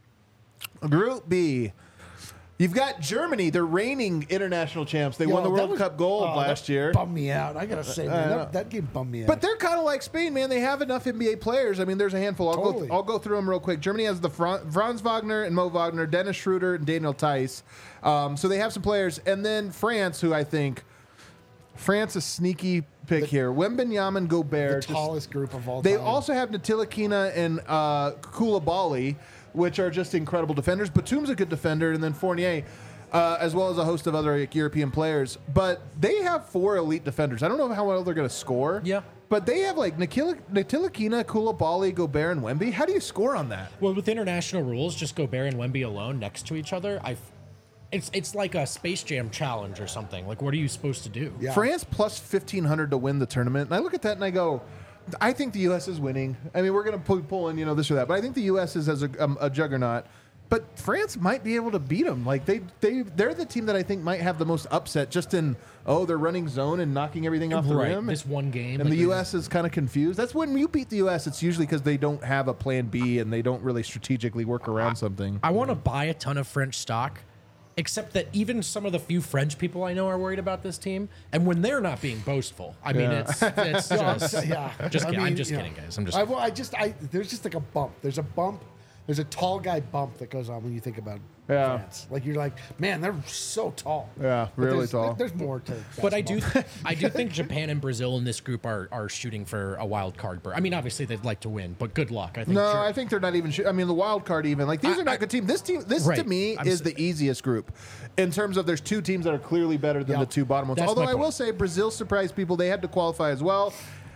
Group B. You've got Germany, the reigning international champs. They Yo, won the that World was- Cup gold oh, last that year. Bummed me out. I gotta say, man, know. that, that game bummed me out. But they're kind of like Spain, man. They have enough N B A players. I mean, there's a handful. I'll Totally. go. I'll go through them real quick. Germany has the Fran- Franz Wagner and Mo Wagner, Dennis Schroeder and Daniel Tice. Um, so they have some players, and then France, who I think France a sneaky pick here. Wembanyama, the Gobert. just- tallest group of all they time. also have Ntilikina and uh, Koulibaly, which are just incredible defenders. Batum's a good defender, and then Fournier, uh, as well as a host of other like, European players. But they have four elite defenders. I don't know how well they're going to score. Yeah. But they have like Nikila- Ntilikina, Koulibaly, Gobert, and Wemby. How do you score on that? Well, with international rules, just Gobert and Wemby alone next to each other, I. It's it's like a Space Jam challenge or something. Like, what are you supposed to do? Yeah. France plus fifteen hundred to win the tournament. And I look at that and I go, I think the U S is winning. I mean, we're going to pull, pull in, you know, this or that. But I think the U S is as a, um, a juggernaut. But France might be able to beat them. Like, they, they, they're the team that I think might have the most upset just in, oh, they're running zone and knocking everything off the Right, rim. this one game, And like, the U there's- S is kind of confused. That's when you beat the U S, it's usually because they don't have a plan B and they don't really strategically work around something. I want to buy a ton of French stock, except that even some of the few French people I know are worried about this team, and when they're not being boastful, I mean, Yeah. it's it's just yeah. just I kidding. I'm mean, just you know, kidding, guys. I'm just I, well, I just, I there's just like a bump. There's a bump. There's a tall guy bump that goes on when you think about Yeah. France. Like you're like, man, they're so tall. Yeah, But really there's, tall. There's more to. But I do, basketball. I do think Japan and Brazil in this group are are shooting for a wild card berth. I mean, obviously they'd like to win, but good luck. I think. No, Ger- I think they're not even. Sh- I mean, the wild card even like these I- are not I- good teams. This team, this Right. to me I'm is s- the easiest group in terms of there's two teams that are clearly better than Yeah. the two bottom ones. That's Although my I will point. say Brazil surprised people; they had to qualify as well.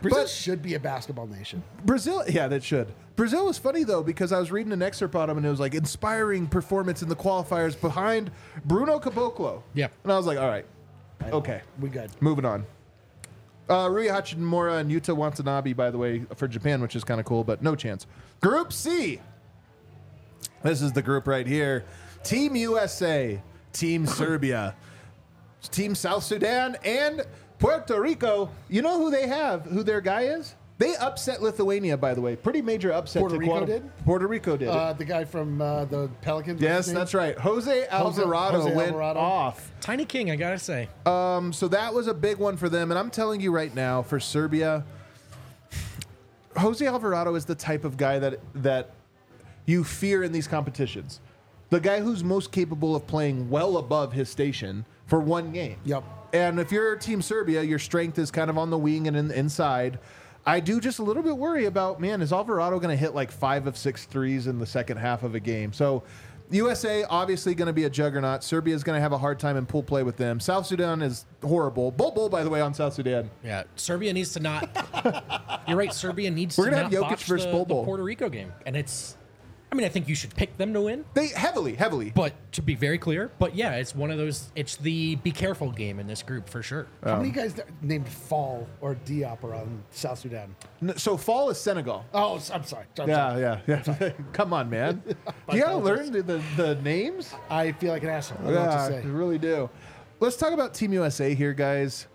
Brazil But- should be a basketball nation. Brazil, yeah, that should. Brazil was funny though because I was reading an excerpt on him and it was like inspiring performance in the qualifiers behind Bruno Caboclo. Yep. And I was like, all right, okay, We good. moving on. Uh, Rui Hachimura and Yuta Watanabe, by the way, for Japan, which is kind of cool, but no chance. Group C. This is the group right here. Team U S A, Team Serbia, Team South Sudan, and Puerto Rico. You know who they have, who their guy is? They upset Lithuania, by the way. Pretty major upset. Puerto to Rico quali- did? Puerto Rico did. Uh, the guy from uh, the Pelicans. what's yes, his name? that's right. Jose Alvarado Jose went Alvarado. off. Tiny King, I gotta say. Um, so that was a big one for them. And I'm telling you right now, for Serbia, Jose Alvarado is the type of guy that that you fear in these competitions. The guy who's most capable of playing well above his station for one game. Yep. And if you're Team Serbia, your strength is kind of on the wing and in, inside. I do just a little bit worry about, man, is Alvarado going to hit like five of six threes in the second half of a game? So U S A obviously going to be a juggernaut. Serbia is going to have a hard time in pool play with them. South Sudan is horrible. Bol Bol, by the way, on South Sudan. Yeah, Serbia needs to not. You're right. Serbia needs We're to gonna not have Jokic botch versus the, Bol the Bol. Puerto Rico game, and it's. I mean, I think you should pick them to win, They heavily, heavily. but to be very clear, but yeah, it's one of those. It's the be careful game in this group for sure. How many guys that named Fall or Diop are on South Sudan? N- So fall is Senegal. Oh, s- I'm sorry. I'm Yeah, sorry. yeah, yeah. Come on, man. I You got to apologize. learn the, the, the names. I feel like an asshole. I don't know what Yeah, to you say. really do. Let's talk about Team U S A here, guys.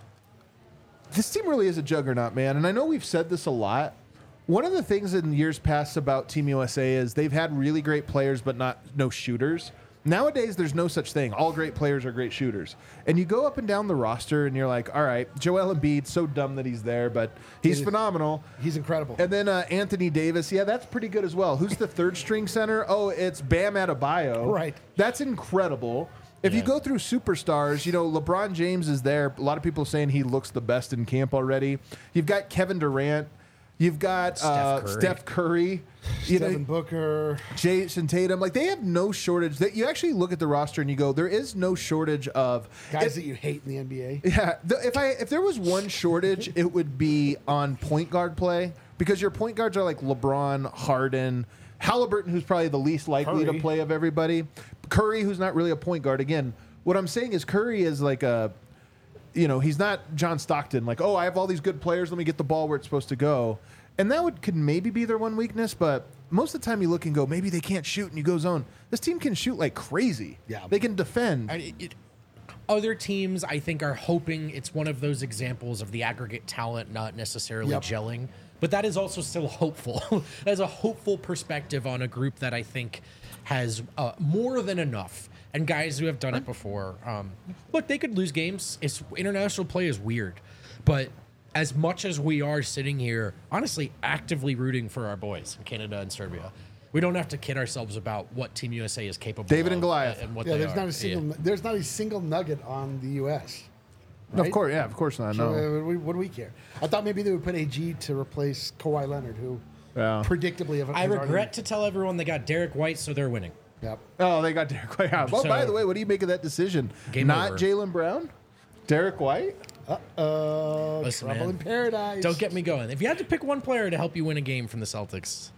This team really is a juggernaut, man. And I know we've said this a lot. One of the things in years past about Team U S A is they've had really great players, but not no shooters. Nowadays, there's no such thing. All great players are great shooters. And you go up and down the roster, and you're like, all right, Joel Embiid, so dumb that he's there, but he's He is. phenomenal. He's incredible. And then uh, Anthony Davis, yeah, that's pretty good as well. Who's the third string center? Oh, it's Bam Adebayo. Right. That's incredible. If you Yeah. go through superstars, you know, LeBron James is there. A lot of people saying he looks the best in camp already. You've got Kevin Durant. You've got Steph uh, Curry. Steph Curry. You Devin know, Booker. Jason Tatum. Like, they have no shortage. That you actually look at the roster and you go, there is no shortage of Guys if- that you hate in the N B A. yeah, the, if I if there was one shortage, it would be on point guard play because your point guards are like LeBron, Harden, Halliburton, who's probably the least likely Curry. to play of everybody, Curry, who's not really a point guard. Again, what I'm saying is Curry is like a, you know, he's not John Stockton. Like, oh, I have all these good players. Let me get the ball where it's supposed to go, and that would could maybe be their one weakness, but. Most of the time, you look and go, maybe they can't shoot, and you go zone. This team can shoot like crazy. Yeah. They can defend. I, it, other teams, I think, are hoping it's one of those examples of the aggregate talent not necessarily Yep. gelling. But that is also still hopeful. That's a hopeful perspective on a group that I think has uh, more than enough. And guys who have done it before. Um, look, they could lose games. It's international play is weird, but as much as we are sitting here, honestly, actively rooting for our boys in Canada and Serbia, we don't have to kid ourselves about what Team U S A is capable of. David and Goliath. And what Yeah, they there's are. not a single. There's not a single nugget on the U S. Of right? course, yeah, of course not. So, No. uh, what, do we, what do we care? I thought maybe they would put A G to replace Kawhi Leonard, who Yeah. predictably have. I has regret already- to tell everyone they got Derek White, so they're winning. Yep. Oh, they got Derek White out. Oh, So- by the way, what do you make of that decision? Game Not over. Jaylen Brown? Derek White? Uh, Listen, trouble man. in paradise. Don't get me going. If you had to pick one player to help you win a game from the Celtics,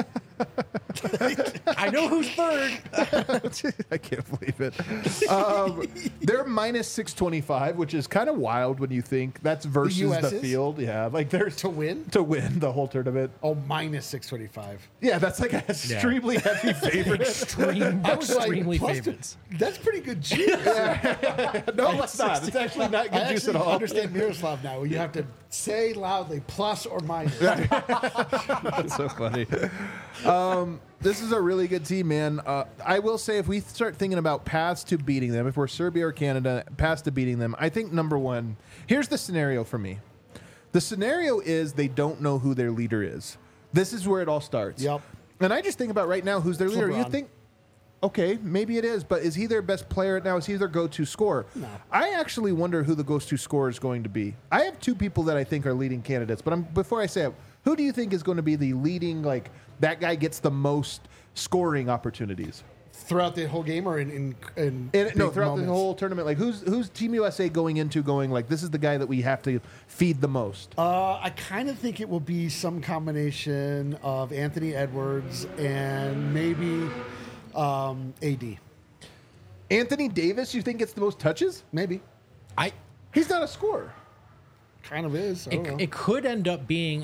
I know who's third. I can't believe it. Um, they're minus six twenty-five, which is kind of wild when you think that's versus U S the is? field. Yeah, like they're To win? to win the whole tournament. Oh, minus six twenty-five. Yeah, that's like an extremely heavy favorite. Extreme, I was like, extremely plus two- favorites. That's pretty good juice. No, it's not. It's actually not I good juice actually at all. understand Miroslav now. You have to say loudly plus or minus. That's so funny. Um, this is a really good team, man. Uh, I will say, if we start thinking about paths to beating them, if we're Serbia or Canada, paths to beating them, I think number one, here's the scenario for me. The scenario is they don't know who their leader is. This is where it all starts. Yep. And I just think about right now, who's their leader? You LeBron. think, okay, maybe it is, but is he their best player right now? Is he their go-to scorer? No. I actually wonder who the go-to scorer is going to be. I have two people that I think are leading candidates, but I'm, before I say it, who do you think is going to be the leading, like, that guy gets the most scoring opportunities? throughout the whole game or in in, in And, no, big throughout moments? the whole tournament, like who's who's Team U S A going into going like this is the guy that we have to feed the most? Uh, I kind of think it will be some combination of Anthony Edwards and maybe um, A D. Anthony Davis, you think gets the most touches? Maybe. I He's not a scorer. Kind of is. I don't know. it, it could end up being.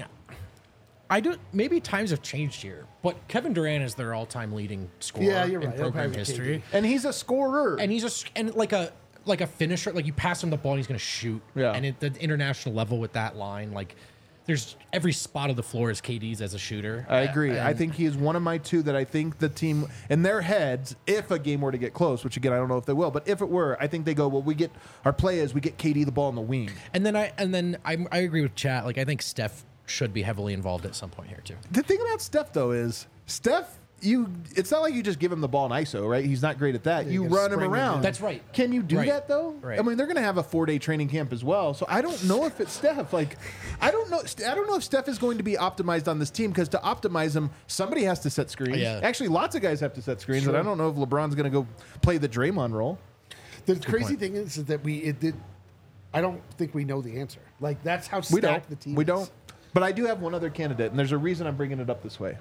I don't. Maybe times have changed here, but Kevin Durant is their all-time leading scorer Yeah, you're in right. It'll program probably be history, And he's a scorer. and he's a s- and like a like a finisher. Like you pass him the ball, and he's going to shoot. Yeah. And at the international level with that line, like there's every spot of the floor is K D's as a shooter. I agree. I And- think he is one of my two that I think the team, in their heads, if a game were to get close, which again I don't know if they will, but if it were, I think they go, well, we get our play is we get K D the ball in the wing. And then I and then I I agree with Chat. Like I think Steph should be heavily involved at some point here too. The thing about Steph though is Steph, you it's not like you just give him the ball in I S O, right? He's not great at that. Yeah, you you gotta run him spring him around. in. That's right. Can you do Right. that though? Right. I mean, they're going to have a four day training camp as well. So I don't know if it's Steph. Like, I don't know. I don't know if Steph is going to be optimized on this team because to optimize him, somebody has to set screens. Yeah. Actually, lots of guys have to set screens, and Sure. I don't know if LeBron's going to go play the Draymond role. The crazy thing is, is that we it did. I don't think we know the answer. Like that's how We stacked don't. the team. We is. don't. But I do have one other candidate, and there's a reason I'm bringing it up this way.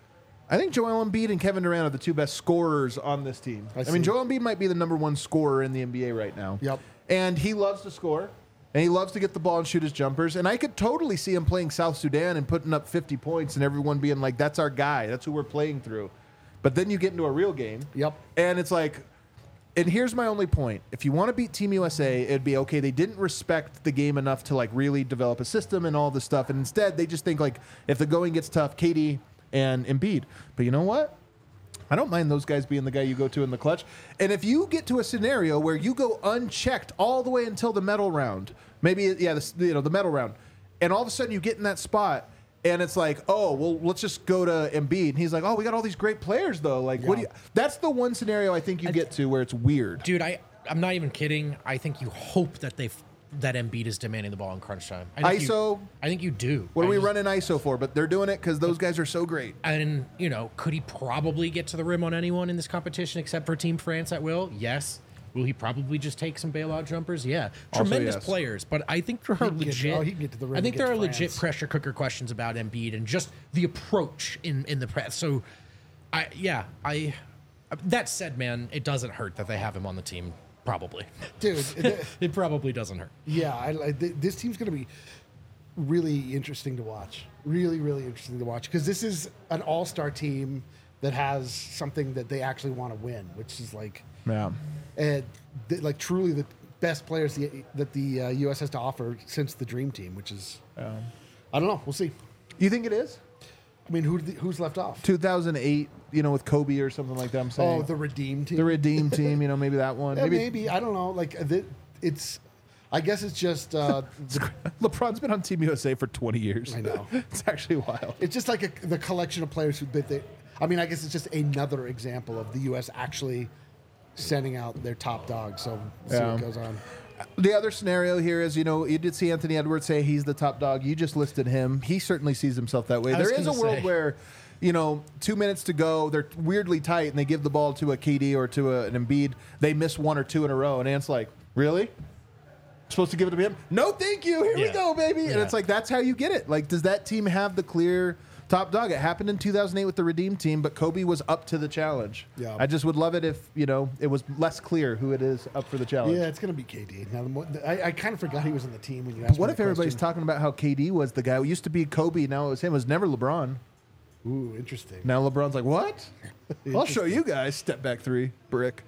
I think Joel Embiid and Kevin Durant are the two best scorers on this team. I I, see. mean, Joel Embiid might be the number one scorer in the N B A right now. Yep. And he loves to score, and he loves to get the ball and shoot his jumpers. And I could totally see him playing South Sudan and putting up fifty points, and everyone being like, "That's our guy. That's who we're playing through." But then you get into a real game. Yep. And it's like, and here's my only point. If you want to beat Team U S A, it'd be okay. They didn't respect the game enough to like really develop a system and all this stuff. And instead, they just think like if the going gets tough, K D and Embiid. But you know what? I don't mind those guys being the guy you go to in the clutch. And if you get to a scenario where you go unchecked all the way until the medal round, maybe yeah, the, you know the medal round, and all of a sudden you get in that spot. And it's like, oh, well, let's just go to Embiid. And he's like, oh, we got all these great players, though. Like, what do you? That's the one scenario I think you get to where it's weird. Dude, I I'm not even kidding. I think you hope that they that Embiid is demanding the ball in crunch time. I think I S O? You, I think you do. What I are we just- running I S O for? But they're doing it because those guys are so great. And you know, could he probably get to the rim on anyone in this competition except for Team France at will? Yes. Will he probably just take some bailout jumpers? Yeah. Also Tremendous yes. players, but I think there are can get- legit. oh, he can get to the rim I and think get there to are legit France. pressure cooker questions about Embiid and just the approach in in the press. So, I yeah I. That said, man, it doesn't hurt that they have him on the team. Probably, Dude, th- it probably doesn't hurt. yeah, I, I, th- this team's going to be really interesting to watch. Really, really interesting to watch because this is an all-star team that has something that they actually want to win, which is like, Yeah. uh, th- like truly the best players the, that the uh, U S has to offer since the Dream Team, which is, I don't know. We'll see. You think it is? I mean, who who's left off? two thousand eight, you know, with Kobe or something like that, I'm saying. Oh, the Redeem Team. the Redeem team, you know, maybe that one. Yeah, maybe, maybe I don't know. Like uh, th- it's, I guess it's just uh, the- LeBron's been on Team U S A for twenty years. I know. It's actually wild. it's just like a, the collection of players who that they. I mean, I guess it's just another example of the U S actually sending out their top dog. So we'll see Yeah. what goes on. The other scenario here is, you know, you did see Anthony Edwards say he's the top dog. You just listed him. He certainly sees himself that way. I was There is a gonna world say. where, you know, two minutes to go, they're weirdly tight, and they give the ball to a K D or to a, an Embiid. They miss one or two in a row, and Ant's like, really? Supposed to give it to him? No, thank you. Here we Yeah. go, baby. And Yeah. it's like, that's how you get it. Like, does that team have the clear top dog? It happened in two thousand eight with the Redeem team, but Kobe was up to the challenge. Yeah. I just would love it if, you know, it was less clear who it is up for the challenge. Yeah, it's gonna be K D. Now, the more, I, I kind of forgot he was on the team when you asked. What me if that everybody's question. talking about how K D was the guy? It used to be Kobe, now it was him. It was never LeBron. Ooh, interesting. Now LeBron's like, what? I'll show you guys. Step back three, brick.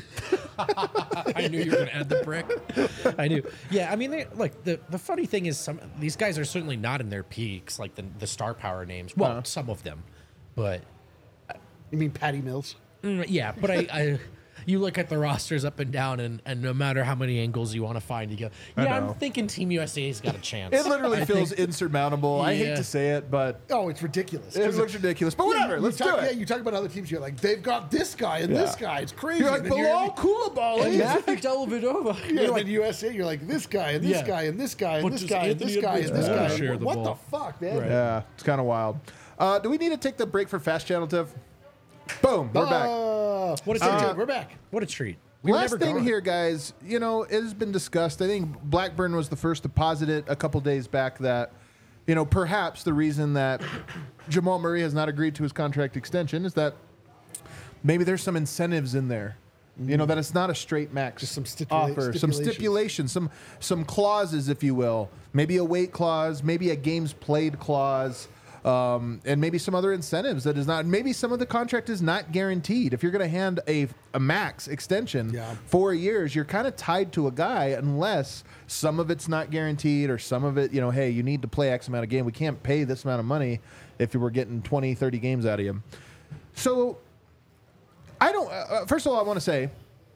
I knew you were going to add the brick. I knew. Yeah, I mean, they, look, the, the funny thing is some these guys are certainly not in their peaks, like the, the star power names. Well, Uh-huh. some of them. But, You mean Patty Mills? mm, yeah, but I, I you look at the rosters up and down, and, and no matter how many angles you want to find, you go, I yeah, I'm know. thinking Team U S A's got a chance. It literally I feels think- insurmountable. I hate Yeah. to say it, but Oh, it's ridiculous. it looks ridiculous. But whatever, You let's talk, do Yeah, it. you talk about other teams. You're like, they've got this guy and this Yeah. guy. It's crazy. You're like, And then Bilal Koulibaly. Matthew Dellavedova. Yeah, You're and then U S A, you're like this guy and this Yeah. guy and this guy and But this does guy and this Anthony guy and Edwards this wanna guy. share the What ball? the fuck, man? Right. Yeah, it's kind of wild. Uh, do we need to take the break for Fast Channel, Tiff? Boom, we're back. Uh, What a stay treat. tuned. We're back. What a treat. We were Last never thing gone. here, guys, you know, it has been discussed. I think Blackburn was the first to posit it a couple days back that, you know, perhaps the reason that Jamal Murray has not agreed to his contract extension is that maybe there's some incentives in there. You know, that it's not a straight max Just some stipula- offer, some stipulations. stipulations, some some clauses, if you will. Maybe a weight clause, maybe a games played clause, um, and maybe some other incentives that is not. Maybe some of the contract is not guaranteed. If you're going to hand a a max extension Yeah. four years, you're kind of tied to a guy unless some of it's not guaranteed or some of it, you know, hey, you need to play X amount of game. We can't pay this amount of money if you were getting twenty, thirty games out of you. So. I don't. Uh, first of all, I want to say,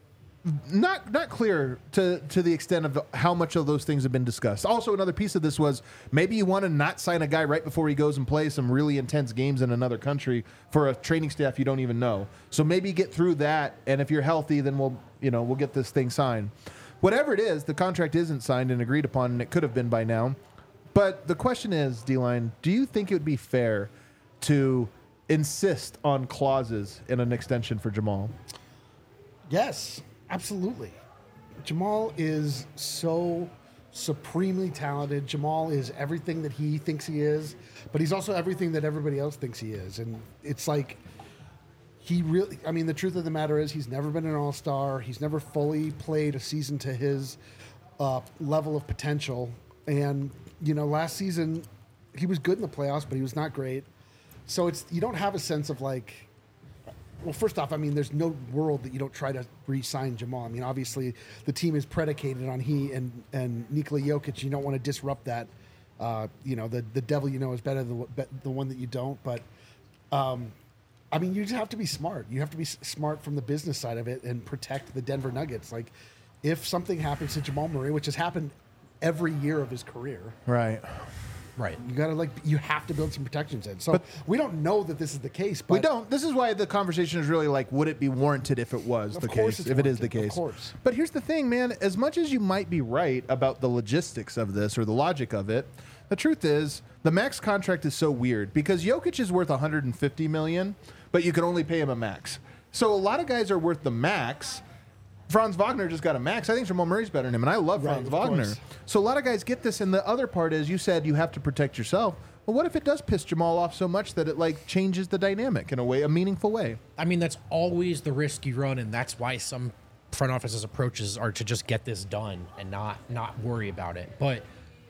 not not clear to to the extent of how much of those things have been discussed. Also, another piece of this was maybe you want to not sign a guy right before he goes and plays some really intense games in another country for a training staff you don't even know. So maybe get through that, and if you're healthy, then we'll you know we'll get this thing signed. Whatever it is, the contract isn't signed and agreed upon, and it could have been by now. But the question is, D-Line, do you think it would be fair to insist on clauses in an extension for Jamal? Yes, absolutely. Jamal is so supremely talented. Jamal is everything that he thinks he is, but he's also everything that everybody else thinks he is. And it's like he really, I mean, the truth of the matter is he's never been an all-star. He's never fully played a season to his uh, level of potential. And, you know, last season he was good in the playoffs, but he was not great. So it's you don't have a sense of like, well, first off, I mean, there's no world that you don't try to re-sign Jamal. I mean, obviously the team is predicated on he and and Nikola Jokic. You don't want to disrupt that. Uh, you know, the the devil you know is better than the, the one that you don't. But um, I mean, you just have to be smart. You have to be s- smart from the business side of it and protect the Denver Nuggets. Like, if something happens to Jamal Murray, which has happened every year of his career, Right. Right. you gotta like you have to build some protections in. So we don't know that this is the case. But We don't. This is why the conversation is really like, would it be warranted if it was Of the course case? it's If it is the warranted, of case. course. But here's the thing, man. As much as you might be right about the logistics of this or the logic of it, the truth is the max contract is so weird because Jokic is worth one hundred fifty million dollars, but you can only pay him a max. So a lot of guys are worth the max. Franz Wagner just got a max. I think Jamal Murray's better than him, and I love Right, Franz of Wagner. course. So a lot of guys get this, and the other part is you said you have to protect yourself. Well, what if it does piss Jamal off so much that it like changes the dynamic in a way, a meaningful way? I mean, that's always the risk you run, and that's why some front offices' approaches are to just get this done and not not worry about it. But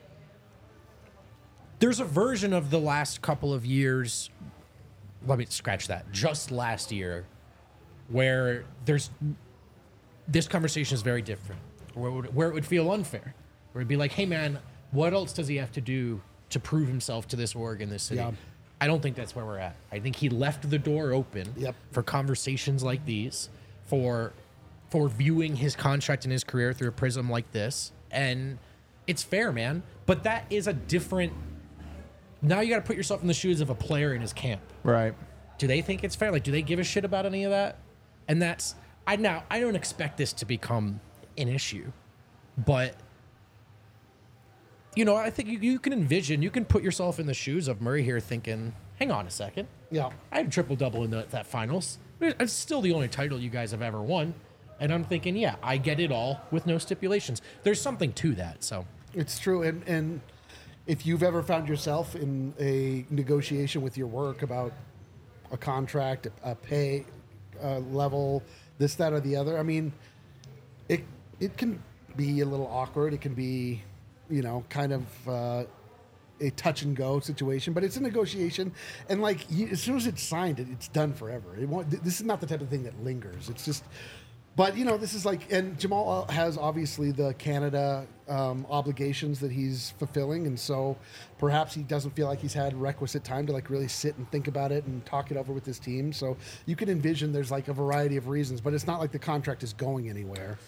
there's a version of the last couple of years. Let me scratch that. Just last year, where there's this conversation is very different, where it would, where it would feel unfair, where it'd be like, hey man, what else does he have to do to prove himself to this org in this city? Yeah. I don't think that's where we're at. I think he left the door open Yep. for conversations like these, for for viewing his contract and his career through a prism like this, and it's fair, man. But that is a different. Now you got to put yourself in the shoes of a player in his camp. Right. Do they think it's fair? Like, do they give a shit about any of that? And that's I now I don't expect this to become an issue, but you know, I think you, you can envision, you can put yourself in the shoes of Murray here, thinking, "Hang on a second, yeah. I had a triple double in the, that finals. It's still the only title you guys have ever won." And I'm thinking, yeah, I get it all with no stipulations. There's something to that. So It's true, and and if you've ever found yourself in a negotiation with your work about a contract, a, a pay uh, level, this, that, or the other, I mean, it it can be a little awkward. It can be, you know, kind of uh, a touch and go situation, but it's a negotiation, and like you, as soon as it's signed, it, it's done forever. It won't. This is not the type of thing that lingers. It's just. But, you know, this is like, and Jamal has obviously the Canada um, obligations that he's fulfilling. And so perhaps he doesn't feel like he's had requisite time to like really sit and think about it and talk it over with his team. So you can envision there's like a variety of reasons, but it's not like the contract is going anywhere.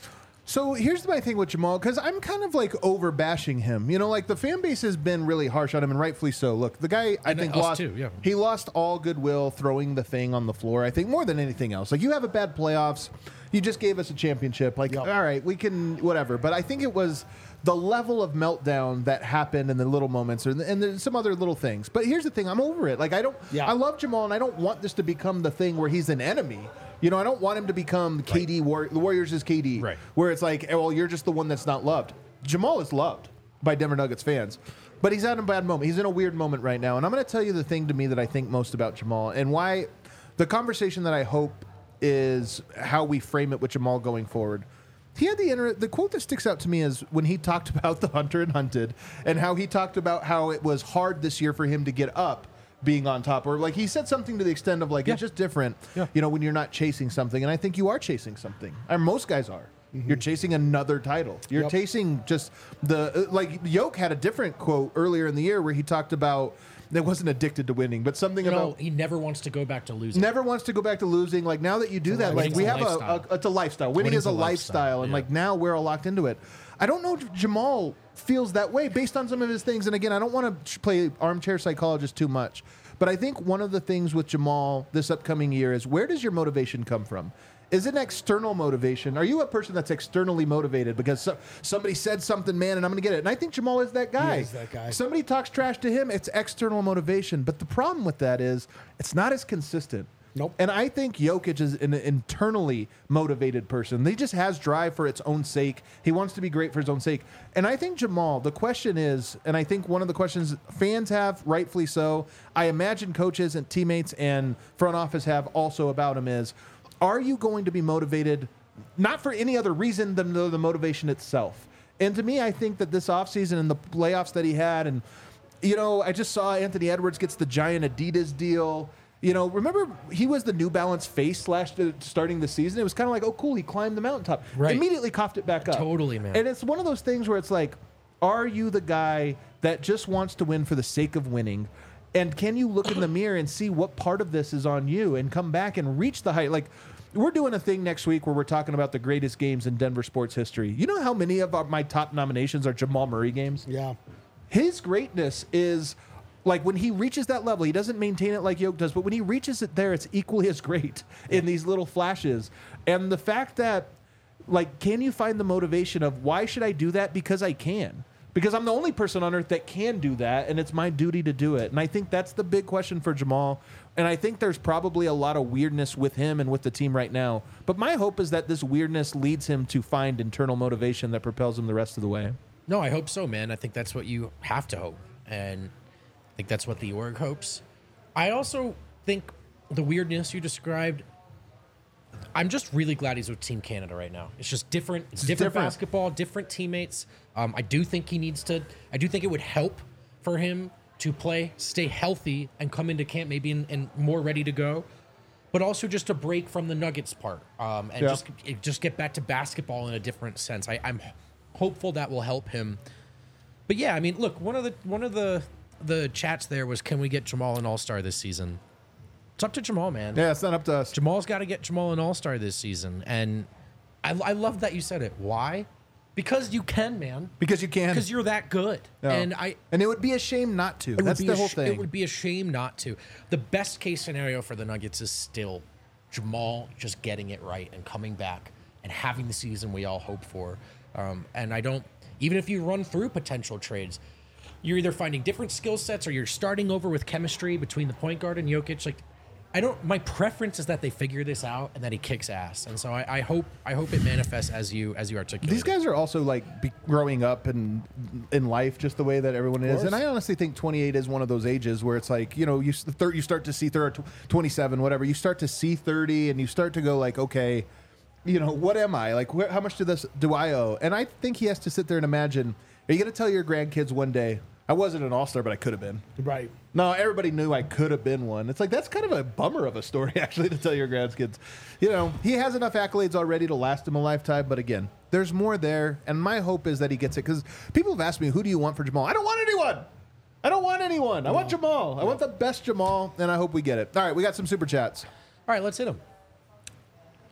So here's my thing with Jamal, because I'm kind of like over bashing him. You know, like the fan base has been really harsh on him, and rightfully so. Look, the guy, I And think, us lost. too, yeah. He lost all goodwill throwing the thing on the floor. I think more than anything else. Like you have a bad playoffs, you just gave us a championship. Like, Yep. all right, we can whatever. But I think it was the level of meltdown that happened in the little moments, and, and there's some other little things. But here's the thing: I'm over it. Like I don't. Yeah. I love Jamal, and I don't want this to become the thing where he's an enemy. You know, I don't want him to become K D. War- the Warriors is K D, Right. where it's like, oh, well, you're just the one that's not loved. Jamal is loved by Denver Nuggets fans, but he's at a bad moment. He's in a weird moment right now, and I'm going to tell you the thing to me that I think most about Jamal, and why the conversation that I hope is how we frame it with Jamal going forward. He had the inter- the quote that sticks out to me is when he talked about the Hunter and Hunted, and how he talked about how it was hard this year for him to get up being on top, or like he said something to the extent of like, Yeah. it's just different, Yeah. you know, when you're not chasing something. And I think you are chasing something. And most guys are. You're chasing another title. You're Yep. chasing just the, uh, like Yoke had a different quote earlier in the year where he talked about, that wasn't addicted to winning, but something You know, about he never wants to go back to losing. never wants to go back to losing. Like now that you do that, like Winning's we a have a, a, lifestyle. it's a lifestyle. Winning Winning's is a a lifestyle. lifestyle, And yeah. like now we're all locked into it. I don't know if Jamal feels that way based on some of his things. And again, I don't want to play armchair psychologist too much. But I think one of the things with Jamal this upcoming year is, where does your motivation come from? Is it an external motivation? Are you a person that's externally motivated because so, somebody said something, man, and I'm going to get it? And I think Jamal is that guy. He is that guy. Somebody talks trash to him, it's external motivation. But the problem with that is it's not as consistent. Nope. And I think Jokic is an internally motivated person. He just has drive for its own sake. He wants to be great for his own sake. And I think Jamal, the question is, and I think one of the questions fans have, rightfully so, I imagine coaches and teammates and front office have also about him is, are you going to be motivated not for any other reason than the, the motivation itself? And to me, I think that this offseason and the playoffs that he had, and, you know, I just saw Anthony Edwards gets the giant Adidas deal. You know, remember he was the New Balance face last uh, starting the season. It was kind of like, oh, cool, he climbed the mountaintop. Right. Immediately coughed it back up. Totally, man. And it's one of those things where it's like, are you the guy that just wants to win for the sake of winning? And can you look in the mirror and see what part of this is on you and come back and reach the height? Like, we're doing a thing next week where we're talking about the greatest games in Denver sports history. You know how many of our, my top nominations are Jamal Murray games? Yeah. His greatness is like when he reaches that level, he doesn't maintain it like Yoke does, but when he reaches it there, it's equally as great in these little flashes. And the fact that, like, can you find the motivation of why should I do that? Because I can. Because I'm the only person on earth that can do that, and it's my duty to do it. And I think that's the big question for Jamal. And I think there's probably a lot of weirdness with him and with the team right now. But my hope is that this weirdness leads him to find internal motivation that propels him the rest of the way. No, I hope so, man. I think that's what you have to hope. And I think that's what the org hopes. I also think the weirdness you described, I'm just really glad he's with Team Canada right now. It's just different. It's, It's different, different. basketball, different teammates. Um, I do think he needs to, I do think it would help for him to play, stay healthy, and come into camp maybe and, and more ready to go. But also just to break from the Nuggets part um, and Yeah. just just get back to basketball in a different sense. I, I'm hopeful that will help him. But yeah, I mean, look, one of the one of the the chats there was, can we get Jamal an All-Star this season? It's up to Jamal, man. Yeah, it's not up to us. Jamal's got to get Jamal an All-Star this season, and I, I love that you said it. Why? Because you can, man. Because you can. Because you're that good, Yeah. and I. And it would be a shame not to. It would That's be the a whole sh- thing. It would be a shame not to. The best case scenario for the Nuggets is still Jamal just getting it right and coming back and having the season we all hope for. Um, and I don't, even if you run through potential trades, you're either finding different skill sets or you're starting over with chemistry between the point guard and Jokic. Like, I don't. My preference is that they figure this out and that he kicks ass. And so I, I hope I hope it manifests as you as you articulate. These guys are also like be growing up and in life just the way that everyone is. course. And I honestly think twenty-eight is one of those ages where it's like, you know, you s- thir- you start to see thirty, twenty-seven, whatever. You start to see thirty and you start to go like, okay, you know, what am I? Like, where, how much do this do I owe? And I think he has to sit there and imagine, are you going to tell your grandkids one day, I wasn't an all-star, but I could have been? Right. No, everybody knew I could have been one. It's like, that's kind of a bummer of a story, actually, to tell your grandkids. You know, he has enough accolades already to last him a lifetime, but again, there's more there, and my hope is that he gets it, because people have asked me, who do you want for Jamal? I don't want anyone! I don't want anyone! I want Jamal! I want the best Jamal, and I hope we get it. All right, we got some super chats. All right, let's hit him.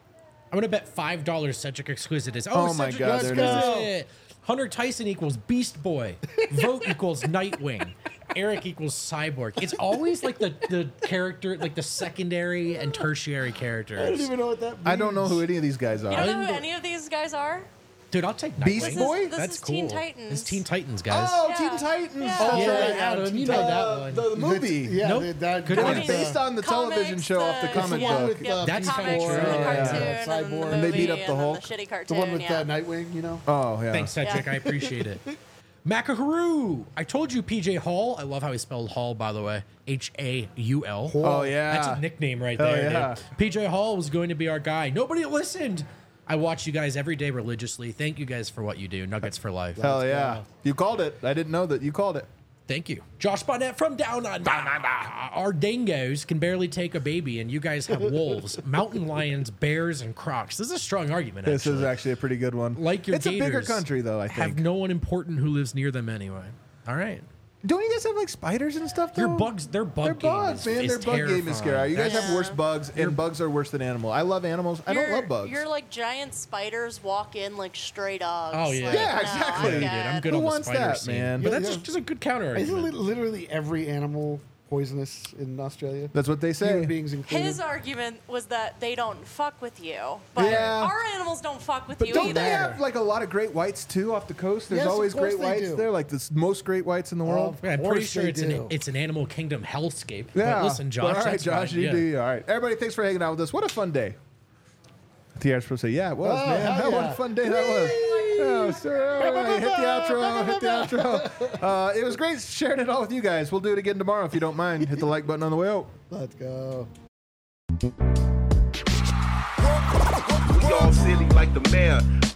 I'm gonna bet five dollars Cedric Exquisite is. Oh, Oh my Cedric God, there it is. Exquisite. Hunter Tyson equals Beast Boy. Vote equals Nightwing. Eric equals Cyborg. It's always like the the character, like the secondary and tertiary I don't characters. even know what that means. I don't know who any of these guys You are. don't know who any of these guys are? Dude, I'll take Nightwing. Beast Boy? This That's is cool. Teen Titans. It's Teen Titans, guys. Oh, Yeah. Teen Titans. Yeah. Oh, yeah, right, Adam, you know uh, that one. The, the movie. Yeah, Nope. the, that, Good It one. was based on the television Comics, show off the the- comic the one book. with, uh, That's Beast kinda Boy, true. And the uh, cartoon, yeah, and then the Cyborg. And they beat movie, up the and then Hulk. The shitty cartoon. The one with yeah. uh, Nightwing, you know? Oh, yeah. Thanks, Cedric. Yeah. I appreciate it. Macaharoo. I told you P J Hall. I love how he spelled Hall, by the way. H A U L. Oh, yeah. That's a nickname right Hell there, yeah. dude. P J Hall was going to be our guy. Nobody listened. I watch you guys every day religiously. Thank you guys for what you do. Nuggets for life. Hell yeah. You called it. I didn't know that. You called it. Thank you. Josh Bonnet from Down Under. Our dingoes can barely take a baby, and you guys have wolves, mountain lions, bears, and crocs. This is a strong argument, This actually. is actually a pretty good one. Like your It's a bigger gators country, though, I have think. no one important who lives near them anyway. All right. Don't you guys have like spiders and stuff, though? Your bugs, their bug Their game bugs, is, man. is Their bug game is scary. terrifying. You guys That's- have worse bugs, and bugs are worse than animals. I love animals. I don't Your- love bugs. Your like giant spiders walk in like stray dogs. Oh, yeah. Like, Yeah, no, exactly. I'm Dude, I'm good. good Who on the wants spider that, scene. man? But Yeah, that's yeah. just a good counter Isn't argument. li- literally every animal poisonous in Australia? That's what they say. Human beings included. His argument was that they don't fuck with you, but Yeah. our animals don't fuck with But you don't either. they have like a lot of great whites too off the coast? There's Yes, of always course great they whites do. there, like the s- most great whites in the world. Of Yeah, I'm pretty course sure they it's an do. it's an animal kingdom hellscape. Yeah. But listen, Josh. All right, that's Josh, fine. you Yeah. do you. All right. Everybody, thanks for hanging out with us. What a fun day. T R's supposed to say, yeah, it was, Oh, man. hell What yeah. a fun day that was. Oh, sir. All right, hit the outro. Hit the outro. Uh, it was great sharing it all with you guys. We'll do it again tomorrow if you don't mind. Hit the like button on the way out. Let's go. We all silly like the mayor.